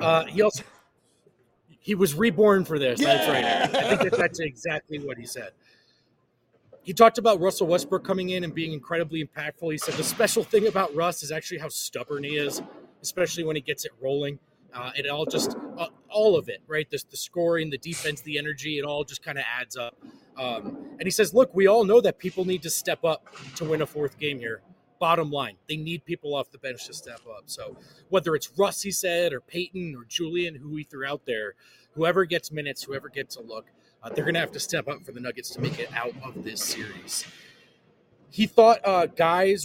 He was reborn for this. Yeah! That's right. I think that's exactly what he said. He talked about Russell Westbrook coming in and being incredibly impactful. He said the special thing about Russ is actually how stubborn he is, especially when he gets it rolling. It all just, all of it, right? The scoring, the defense, the energy, it all just kind of adds up. And he says, look, we all know that people need to step up to win a fourth game here. Bottom line, they need people off the bench to step up. So whether it's Russ, he said, or Peyton or Julian, who he threw out there, whoever gets minutes, whoever gets a look, they're going to have to step up for the Nuggets to make it out of this series. He thought guys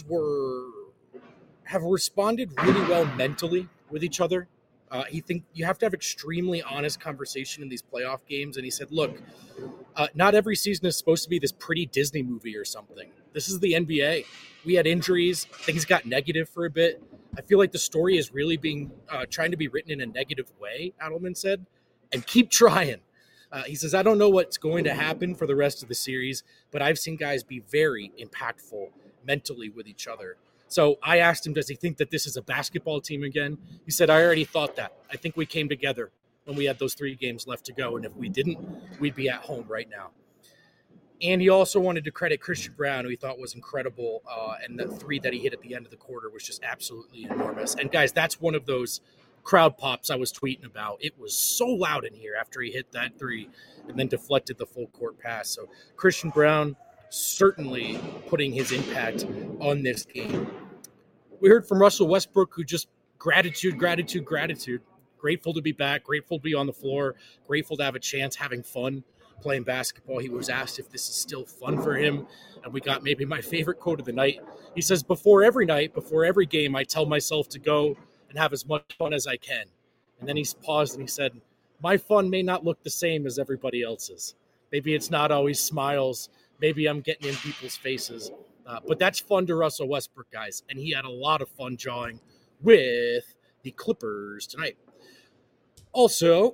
have responded really well mentally with each other. He think you have to have extremely honest conversation in these playoff games. And he said, look, not every season is supposed to be this pretty Disney movie or something. This is the NBA. We had injuries. Things got negative for a bit. I feel like the story is really being trying to be written in a negative way, Adelman said, and keep trying. He says, I don't know what's going to happen for the rest of the series, but I've seen guys be very impactful mentally with each other. So I asked him, does he think that this is a basketball team again? He said, I already thought that. I think we came together when we had those 3 games left to go. And if we didn't, we'd be at home right now. And he also wanted to credit Christian Brown, who he thought was incredible. And the 3 that he hit at the end of the quarter was just absolutely enormous. And guys, that's one of those crowd pops I was tweeting about. It was so loud in here after he hit that 3 and then deflected the full court pass. So Christian Brown certainly putting his impact on this game. We heard from Russell Westbrook, who just gratitude. Grateful to be back, grateful to be on the floor, grateful to have a chance, having fun playing basketball. He was asked if this is still fun for him, and we got maybe my favorite quote of the night. He says, before every night, before every game, I tell myself to go and have as much fun as I can. And then he paused and he said, my fun may not look the same as everybody else's. Maybe it's not always smiles. Maybe I'm getting in people's faces. But that's fun to Russell Westbrook, guys. And he had a lot of fun jawing with the Clippers tonight. Also,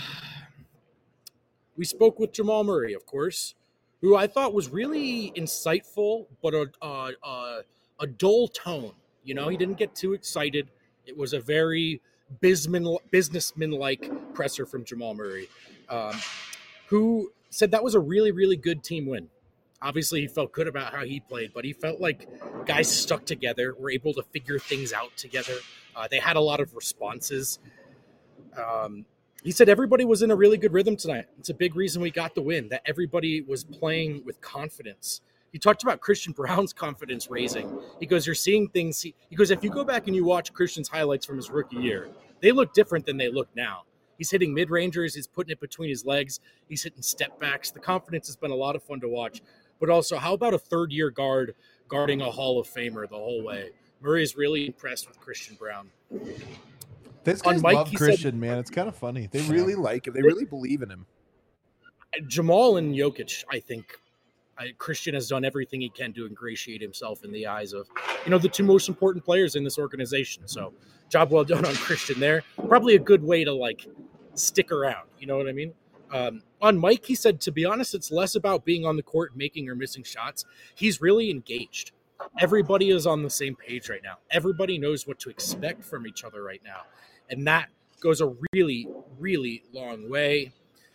we spoke with Jamal Murray, of course, who I thought was really insightful, but a dull tone. You know, he didn't get too excited. It was a very businessman-like presser from Jamal Murray, who said that was a really, really good team win. Obviously, he felt good about how he played, but he felt like guys stuck together, were able to figure things out together. They had a lot of responses. He said everybody was in a really good rhythm tonight. It's a big reason we got the win, that everybody was playing with confidence. He talked about Christian Brown's confidence raising. He goes, you're seeing things. He goes, if you go back and you watch Christian's highlights from his rookie year, they look different than they look now. He's hitting mid-rangers. He's putting it between his legs. He's hitting step backs. The confidence has been a lot of fun to watch. But also, how about a third-year guard guarding a Hall of Famer the whole way? Murray is really impressed with Christian Brown. These guys love Christian, man. It's kind of funny. They really like him. They really believe in him. Jamal and Jokic, I think, Christian has done everything he can to ingratiate himself in the eyes of, the 2 most important players in this organization. So, job well done on Christian there. Probably a good way to, stick around. You know what I mean? On Mike, he said, to be honest, it's less about being on the court, making or missing shots. He's really engaged. everybody is on the same page right now. Everybody knows what to expect from each other right now. And that goes a really, really long way.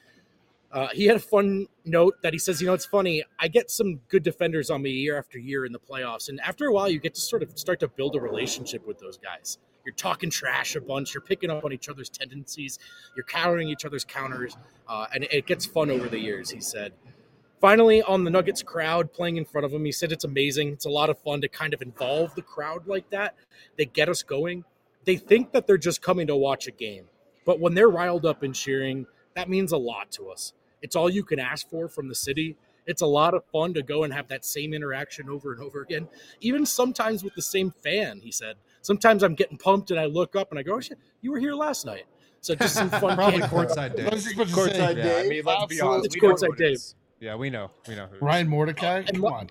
He had a fun note that he says, it's funny, I get some good defenders on me year after year in the playoffs. And after a while, you get to sort of start to build a relationship with those guys. You're talking trash a bunch. You're picking up on each other's tendencies. You're countering each other's counters. And it gets fun over the years, he said. Finally, on the Nuggets crowd playing in front of him, he said it's amazing. It's a lot of fun to kind of involve the crowd like that. They get us going. They think that they're just coming to watch a game. But when they're riled up and cheering, that means a lot to us. It's all you can ask for from the city. It's a lot of fun to go and have that same interaction over and over again, even sometimes with the same fan, he said. Sometimes I'm getting pumped and I look up and I go, oh, shit, you were here last night. So just some fun. Probably courtside day. Courtside Yeah, I mean, let's be honest. It's we know courtside who it Dave. is. Yeah, we know. We know who it is. Ryan Mordecai? Come on.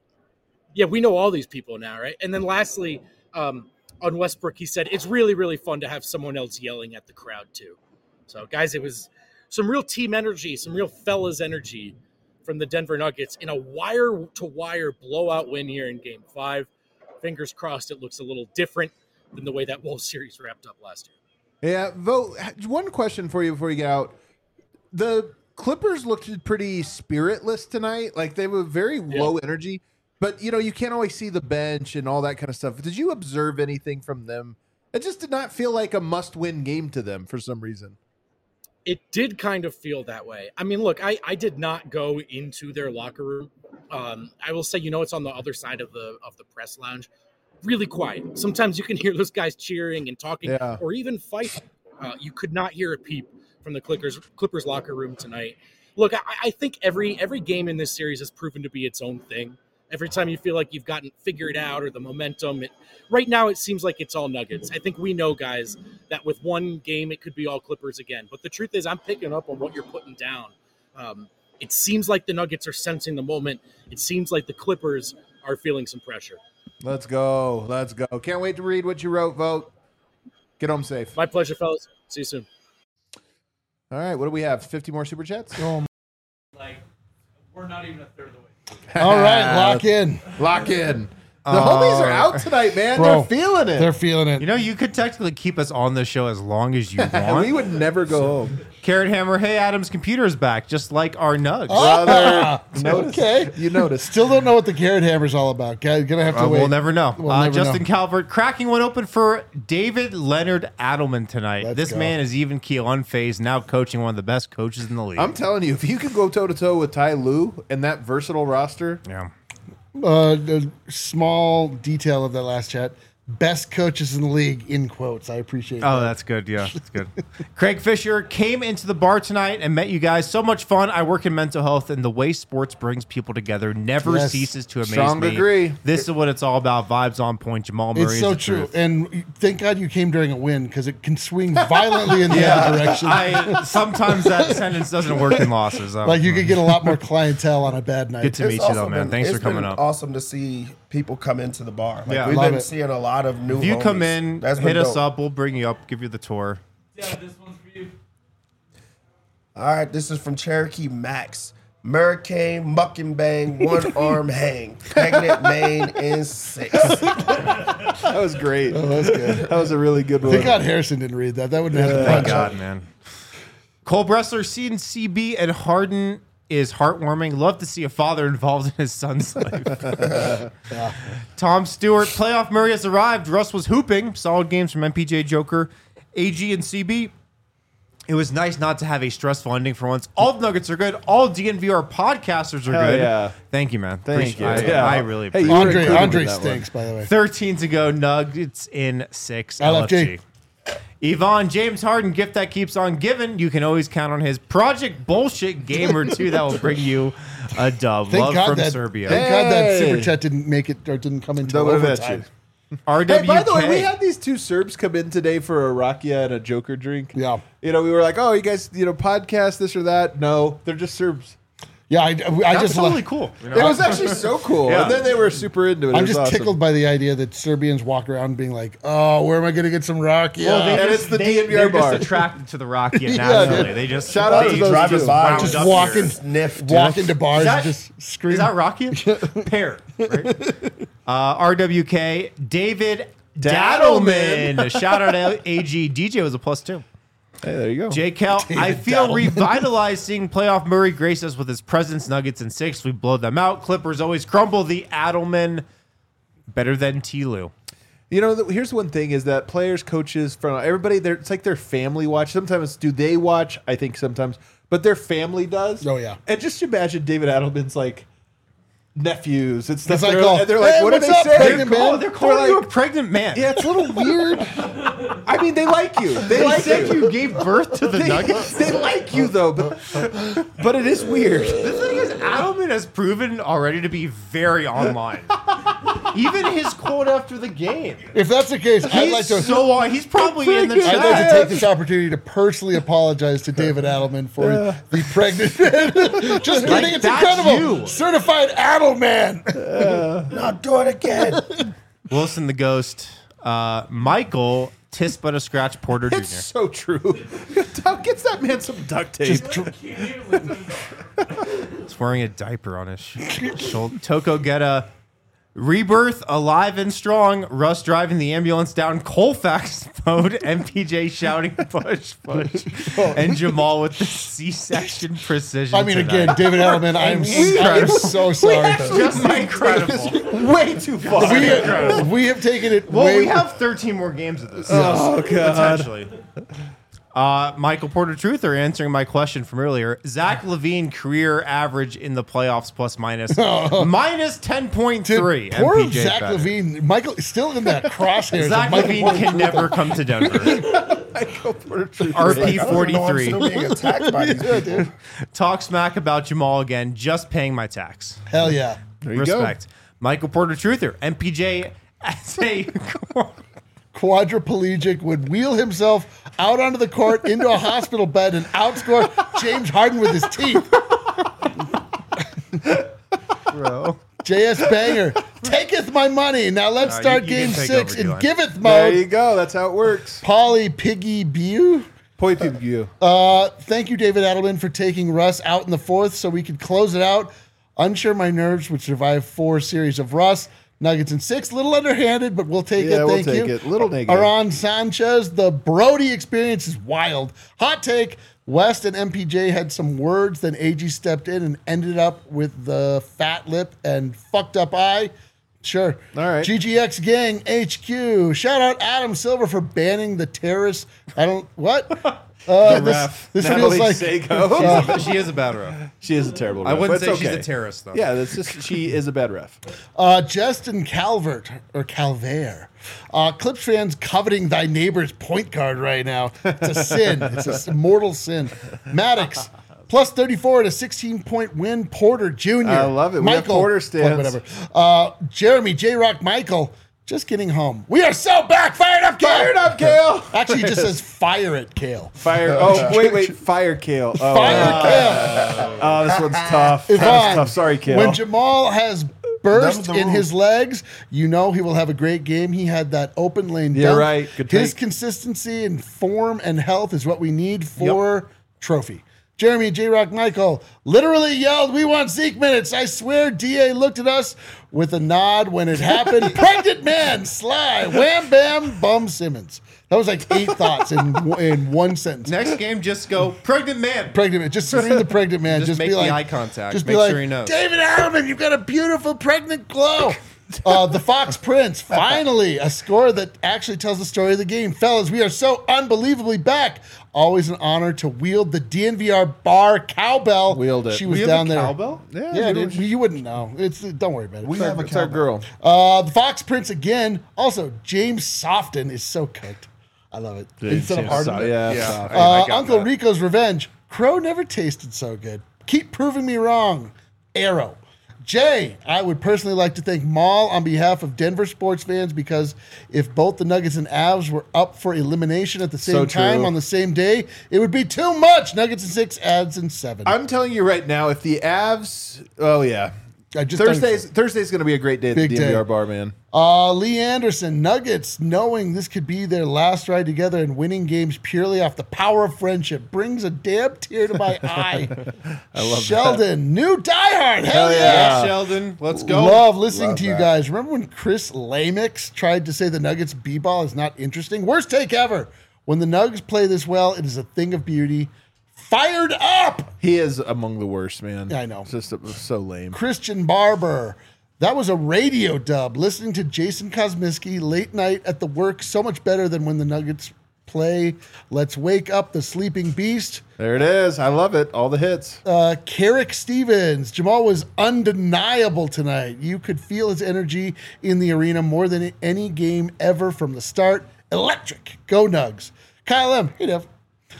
Yeah, we know all these people now, right? And then lastly, on Westbrook, he said, it's really, really fun to have someone else yelling at the crowd too. So, guys, it was some real team energy, some real fellas energy from the Denver Nuggets in a wire-to-wire blowout win here in Game 5. Fingers crossed it looks a little different than the way that Wolves series wrapped up last year. Yeah, Vogt, one question for you before you get out. The Clippers looked pretty spiritless tonight. Like, they were very low energy. But, you can't always see the bench and all that kind of stuff. Did you observe anything from them? It just did not feel like a must-win game to them for some reason. It did kind of feel that way. I mean, look, I did not go into their locker room. I will say, it's on the other side of the press lounge. Really quiet. Sometimes you can hear those guys cheering and talking or even fighting. You could not hear a peep from the Clippers locker room tonight. Look, I think every game in this series has proven to be its own thing. Every time you feel like you've gotten figured out or the momentum, right now it seems like it's all Nuggets. I think we know, guys, that with one game it could be all Clippers again. But the truth is I'm picking up on what you're putting down. It seems like the Nuggets are sensing the moment. It seems like the Clippers are feeling some pressure. Let's go. Let's go. Can't wait to read what you wrote, Vogt. Get home safe. My pleasure, fellas. See you soon. All right. What do we have? 50 more Super Chats? We're not even a third of the way. All right, lock in. Lock in. The homies are out tonight, man. Bro, They're feeling it. They're feeling it. You could technically keep us on the show as long as you want. We would never go home. Carrot Hammer, hey, Adam's computer is back, just like our Nugs. Brother. Okay. You noticed. Still don't know what the Carrot Hammer's all about. Gonna have to wait. We'll never know. We'll never Justin know. Calvert cracking one open for David Leonard Adelman tonight. Let's this go. man is even keel unfazed, now coaching one of the best coaches in the league. I'm telling you, if you can go toe-to-toe with Ty Lue and that versatile roster, yeah. The small detail of that last chat. Best coaches in the league, in quotes. I appreciate that. Oh, that's good. Yeah, that's good. Craig Fisher came into the bar tonight and met you guys. So much fun. I work in mental health, and the way sports brings people together never ceases to amaze Strong me. agree. This is what it's all about. Vibes on point. Jamal Murray. It's so is the true. truth. And thank God you came during a win because it can swing violently in the other direction. Sometimes that sentence doesn't work in losses. Like you could get a lot more clientele on a bad night. Good to meet you, though, man. Thanks for It's coming been up. awesome to see people come into the bar. Like, Yeah. we've Love been it. seeing a lot of new If you come homies. in, That's been hit us dope. up. We'll bring you up, give you the tour. Yeah, this one's for you. All right, this is from Cherokee Max. Hurricane, muck and bang, one arm hang. Pregnant Maine in 6. that was great. Oh, that's good. That was a really good one. Thank God Harrison didn't read that. That wouldn't have Thank to God, man. Cole Bressler, CB and Harden is heartwarming. Love to see a father involved in his son's life. Tom Stewart, playoff Murray has arrived. Russ was hooping. Solid games from MPJ, Joker, AG, and CB. It was nice not to have a stressful ending for once. All the Nuggets are good. All DNVR podcasters are Hell good. yeah. Thank you, man. Thank you. Appreciate it. Yeah. I really Hey, appreciate you were it. included Andre in that stinks, by the way. 13 to go. Nuggets in 6. LFG. Yvonne, James Harden, gift that keeps on giving. You can always count on his Project Bullshit game or two that will bring you a dub. Thank Love God from that, Serbia. Thank God that Hey. super chat didn't make it or didn't come into Double bet overtime. you. RWK. Hey, by the way, we had these two Serbs come in today for a rakia and a Joker drink. Yeah. We were like, oh, you guys, podcast this or that. No, they're just Serbs. Yeah, I That's just totally cool. It was actually so cool. Yeah. And then they were super into it. I'm It was just awesome. tickled by the idea that Serbians walk around being like, "Oh, where am I going to get some rock?" Yeah, And it's the DNVR they're bar. just attracted to the Rocky Yeah, naturally. dude. They just Shout out to they those drive two. us by. just Up walk here. in, Sniff, walk into bars Is that- and just scream. Is that Rocky? Pear, right? RWK, David Dadelman. Shout out AG. DJ was a +2. Hey, there you go. J. Cal, I feel revitalized seeing playoff Murray grace us with his presence. Nuggets in 6. We blow them out. Clippers always crumble. The Adelman, better than T-Lou. You know, here's one thing is that players, coaches, from everybody, it's like their family watch. Sometimes do they watch? I think sometimes. But their family does. Oh, yeah. And just imagine David Adelman's like nephews and stuff. It's like, they're like, hey, what did what's they up, say? pregnant man? They're calling you a pregnant man. Yeah, it's a little weird. I mean, they like you. They like said you. you gave birth to the Nuggets. They like you though, but it is weird. The thing is, Adelman has proven already to be very online. Even his quote after the game. If that's the case, I'd like to. He's probably in the chat. I'd like to take this opportunity to personally apologize to David Adelman for the pregnant man. Just kidding, it's that's incredible. you. Certified Adelman. Not do it again. Wilson the Ghost. Michael Tis but a Scratch Porter Jr. It's so true. Gets that man some duct tape. He's wearing a diaper on his shoulder. Toko Geta. Rebirth, alive and strong. Russ driving the ambulance down Colfax mode. MPJ shouting push. And Jamal with the C-section precision. I mean, tonight. again, David Adelman, I am so sorry. Just incredible. Way too far. We have taken it Well, way. we have 13 more games of this. Oh, God. Potentially. Michael Porter Truther answering my question from earlier. Zach LaVine career average in the playoffs plus minus minus 10.3. Poor MPJ Zach better. LaVine. Michael is still in that crosshairs. Zach of Michael LaVine Porter can Jr. never come to Denver. RP I'm 43. still being attacked by these people. Talk smack about Jamal again. Just paying my tax. Hell yeah. There you go. Respect. Michael Porter Truther. MPJ as a Quadriplegic would wheel himself out onto the court into a hospital bed and outscore James Harden with his teeth. bro. JS Banger, taketh my money. Now let's start you game can take 6 over, in Dylan. giveth There you mode. go. That's how it works. Polly Piggy Bew. Poi people, you. Thank you, David Adelman, for taking Russ out in the 4th so we could close it out. Unsure my nerves would survive 4 series of Russ. Nuggets in 6, little underhanded, but we'll take it. Yeah, we'll Thank take you. it. Little negative. Aron Sanchez, the Brody experience is wild. Hot take. West and MPJ had some words, then AG stepped in and ended up with the fat lip and fucked up eye. Sure. All right. GGX Gang HQ. Shout out Adam Silver for banning the terrorists. I don't, what? ref. This Natalie feels like, Seiko. She is a bad ref. She is a terrible ref. I wouldn't but say it's she's okay. a terrorist, though. Yeah, that's just she is a bad ref. Justin Calvert, or Calvert. Clips fans coveting thy neighbor's point guard right now. It's a sin. It's a mortal sin. Maddox, plus 34 at a 16-point win. Porter Jr. I love it. We have Porter stands. Whatever. Jeremy, J-Rock, Michael, just getting home. We are so back. Fired up, Kale. Fired up, Kale. Actually, it just says fire it, Kale. Fire. Oh, wait. Fire Kale. Oh, Fire Kale. oh, this one's tough. That Yvonne, was tough. Sorry, Kale. when Jamal has burst the in rules. his legs, you know he will have a great game. He had that open lane Yeah, dunk. right. Good His take. consistency and form and health is what we need for trophy. Jeremy, J-Rock, Michael literally yelled, "We want Zeke minutes." I swear DA looked at us with a nod when it happened. Pregnant man, Sly, wham, bam, bum Simmons. That was like 8 thoughts in one sentence. Next game, just go, pregnant man. Pregnant man. Just scream the pregnant man. Just make be the like, eye contact. Just Make be like, sure he knows. David Adelman, you've got a beautiful pregnant glow. The Fox Prince, finally, a score that actually tells the story of the game. Fellas, we are so unbelievably back. Always an honor to wield the DNVR bar cowbell. Wield it. She was We have down a there. cowbell? Yeah, dude, you wouldn't know. Don't worry about it. We have a It's our cowbell. girl. The Fox Prince again. Also, James Softon is so cooked. I love it. Instead of Harden. Yeah. I got Uncle that. Rico's Revenge. Crow never tasted so good. Keep proving me wrong. Arrow. Jay, I would personally like to thank Maul on behalf of Denver sports fans because if both the Nuggets and Avs were up for elimination at the So same time true. on the same day, it would be too much. Nuggets in 6, Avs in 7. I'm telling you right now, if the Avs, oh yeah, Thursday's going to be a great day at the Big DNVR day. bar, man. Lee Anderson, Nuggets, knowing this could be their last ride together and winning games purely off the power of friendship brings a damn tear to my eye. I love Sheldon, new diehard. Hell yeah. Sheldon, let's go. Love listening Love to you that. guys. Remember when Chris Lamix tried to say the Nuggets B-ball is not interesting? Worst take ever. When the Nuggets play this well, it is a thing of beauty. Fired up. He is among the worst, man. Yeah, I know. It's just so lame. Christian Barber. That was a radio dub. Listening to Jason Kosminski late night at the work, so much better than when the Nuggets play. Let's wake up the sleeping beast. There it is. I love it. All the hits. Carrick Stevens. Jamal was undeniable tonight. You could feel his energy in the arena more than any game ever from the start. Electric. Go Nugs. Kyle M. Hey, Dev.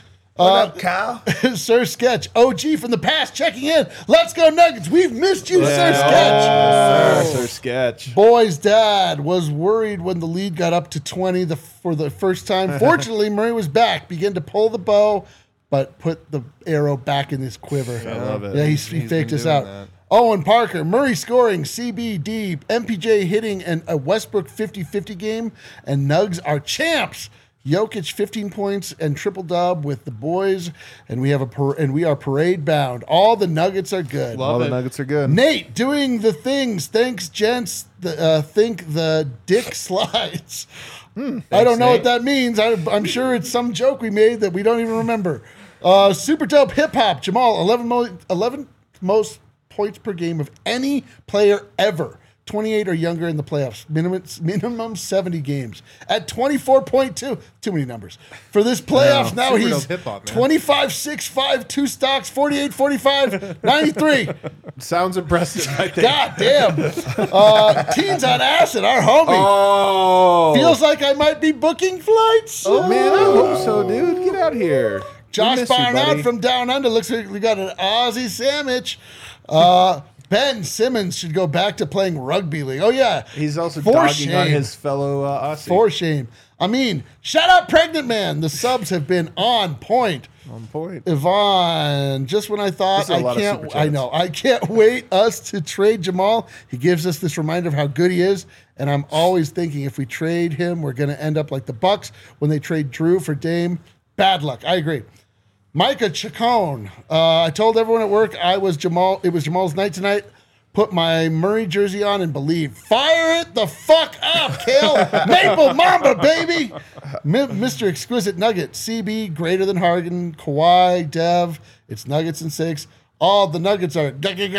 What up, Kyle? Sir Sketch, OG from the past, checking in. Let's go Nuggets. We've missed you, Sir Sketch. Sir Sketch. Boy's dad was worried when the lead got up to 20 for the first time. Fortunately, Murray was back, began to pull the bow, but put the arrow back in his quiver. I love it. Yeah, he He's faked been us doing out. that. Owen Parker, Murray scoring, CBD, MPJ hitting, and a Westbrook 50-50 game, and Nugs are champs. Jokic 15 points and triple dub with the boys, and we are parade bound. All the Nuggets are good. All the Nuggets are good. Nate doing the things. Thanks, gents. Think the dick slides. I don't know what that means. I'm sure it's some joke we made that we don't even remember. Super dope hip hop. Jamal, 11 most points per game of any player ever. 28 or younger in the playoffs. Minimum 70 games. At 24.2. Too many numbers. For this playoffs, now super he's dope hip-hop, man. 25, 6'5", 2 stocks, 48, 45, 93. Sounds impressive, I think. God damn. Teens on Acid, our homie. Oh. Feels like I might be booking flights. Oh, man, I hope so, dude. Get out here. Josh We miss you, Barnard buddy. from Down Under. Looks like we got an Aussie sandwich. Ben Simmons should go back to playing rugby league. Oh, yeah. He's also For dogging shame. on his fellow Aussie. For shame. I mean, shout out Pregnant Man. The subs have been on point. On point. Yvonne, just when I thought These are a lot of super chats. I know, I can't wait us to trade Jamal. He gives us this reminder of how good he is, and I'm always thinking if we trade him, we're going to end up like the Bucks when they trade Drew for Dame. Bad luck. I agree. Micah Chacon. I told everyone at work it was Jamal's night tonight. Put my Murray jersey on and believe. Fire it the fuck up, Kale. Maple Mamba, baby. Mr. Exquisite Nugget. CB greater than Harden. Kawhi, Dev. It's Nuggets and 6. All the Nuggets are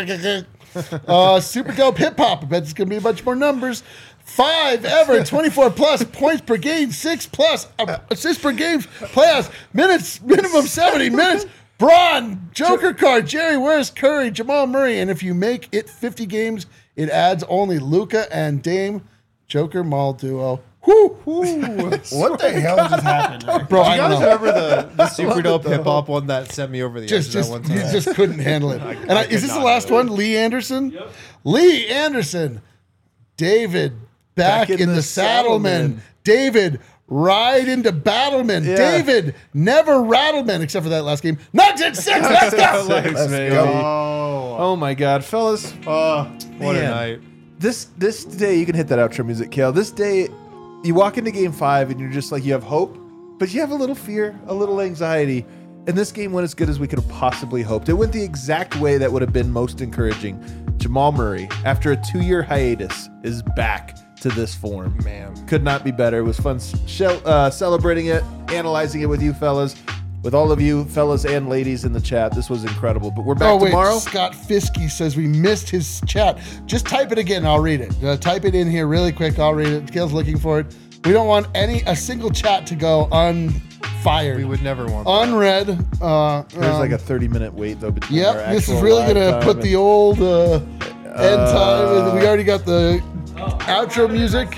super dope hip hop. I bet it's going to be a bunch more numbers. 5 ever, 24 plus points per game, 6 plus assists per game, playoffs, minutes, minimum 70 minutes. Braun, Joker card, Jerry, where's Curry, Jamal Murray, and if you make it 50 games, it adds only Luka and Dame, Joker Mall duo. Whoo, What the hell just happened there? bro! Do I you don't guys know. remember the super dope hip hop one that sent me over the edge that one You time? just couldn't handle it. And is this the last one? Lee Anderson. Yep. Lee Anderson. David back in the Saddleman. David. Ride into Battleman. Yeah. David, never Rattleman, except for that last game. Nuggets at 6. Let's go. Let's baby. go. Oh my God, fellas! What a Man. night. This day, you can hit that outro music, Kale. This day, you walk into Game 5 and you're just like, you have hope, but you have a little fear, a little anxiety. And this game went as good as we could have possibly hoped. It went the exact way that would have been most encouraging. Jamal Murray, after a 2-year hiatus, is back to this form. Man. Could not be better. It was fun celebrating it, analyzing it with you fellas, with all of you fellas and ladies in the chat. This was incredible. But we're back tomorrow. Scott Fiskey says we missed his chat. Just type it again. I'll read it. Type it in here really quick. I'll read it. Gail's looking for it. We don't want a single chat to go unfired. We would never want that. unread. There's like a 30-minute wait though between our Yep, this is actual really live gonna time put and- the old end time. We already got the outro music.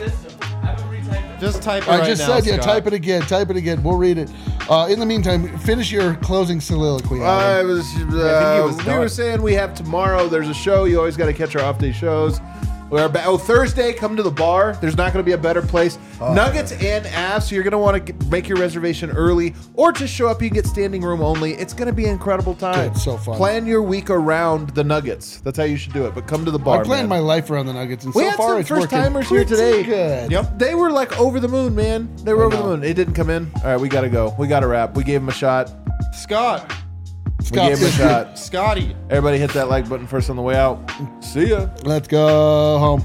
Just type it I right just now, said, yeah, Scott. type it again. Type it again. We'll read it. In the meantime, finish your closing soliloquy. I Adam. was, was we done. were saying we have tomorrow. There's a show. You always got to catch our off-day shows. Thursday, come to the bar. There's not going to be a better place. Nuggets and Avs, so you're going to want to make your reservation early or just show up. You can get standing room only. It's going to be an incredible time. It's so fun. Plan your week around the Nuggets. That's how you should do it. But come to the bar, I planned man. my life around the Nuggets, and We so had far some it's first-timers working here today. Good. Yep. They were like over the moon, man. They were over the know. moon. It didn't come in. All right, we got to go. We got to wrap. We gave him a shot. Scott. We gave him a shot. Scotty. Everybody hit that like button first on the way out. See ya. Let's go home.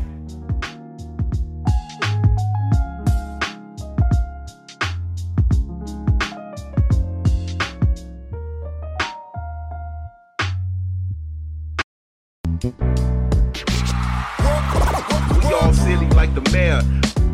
We all silly like the mayor.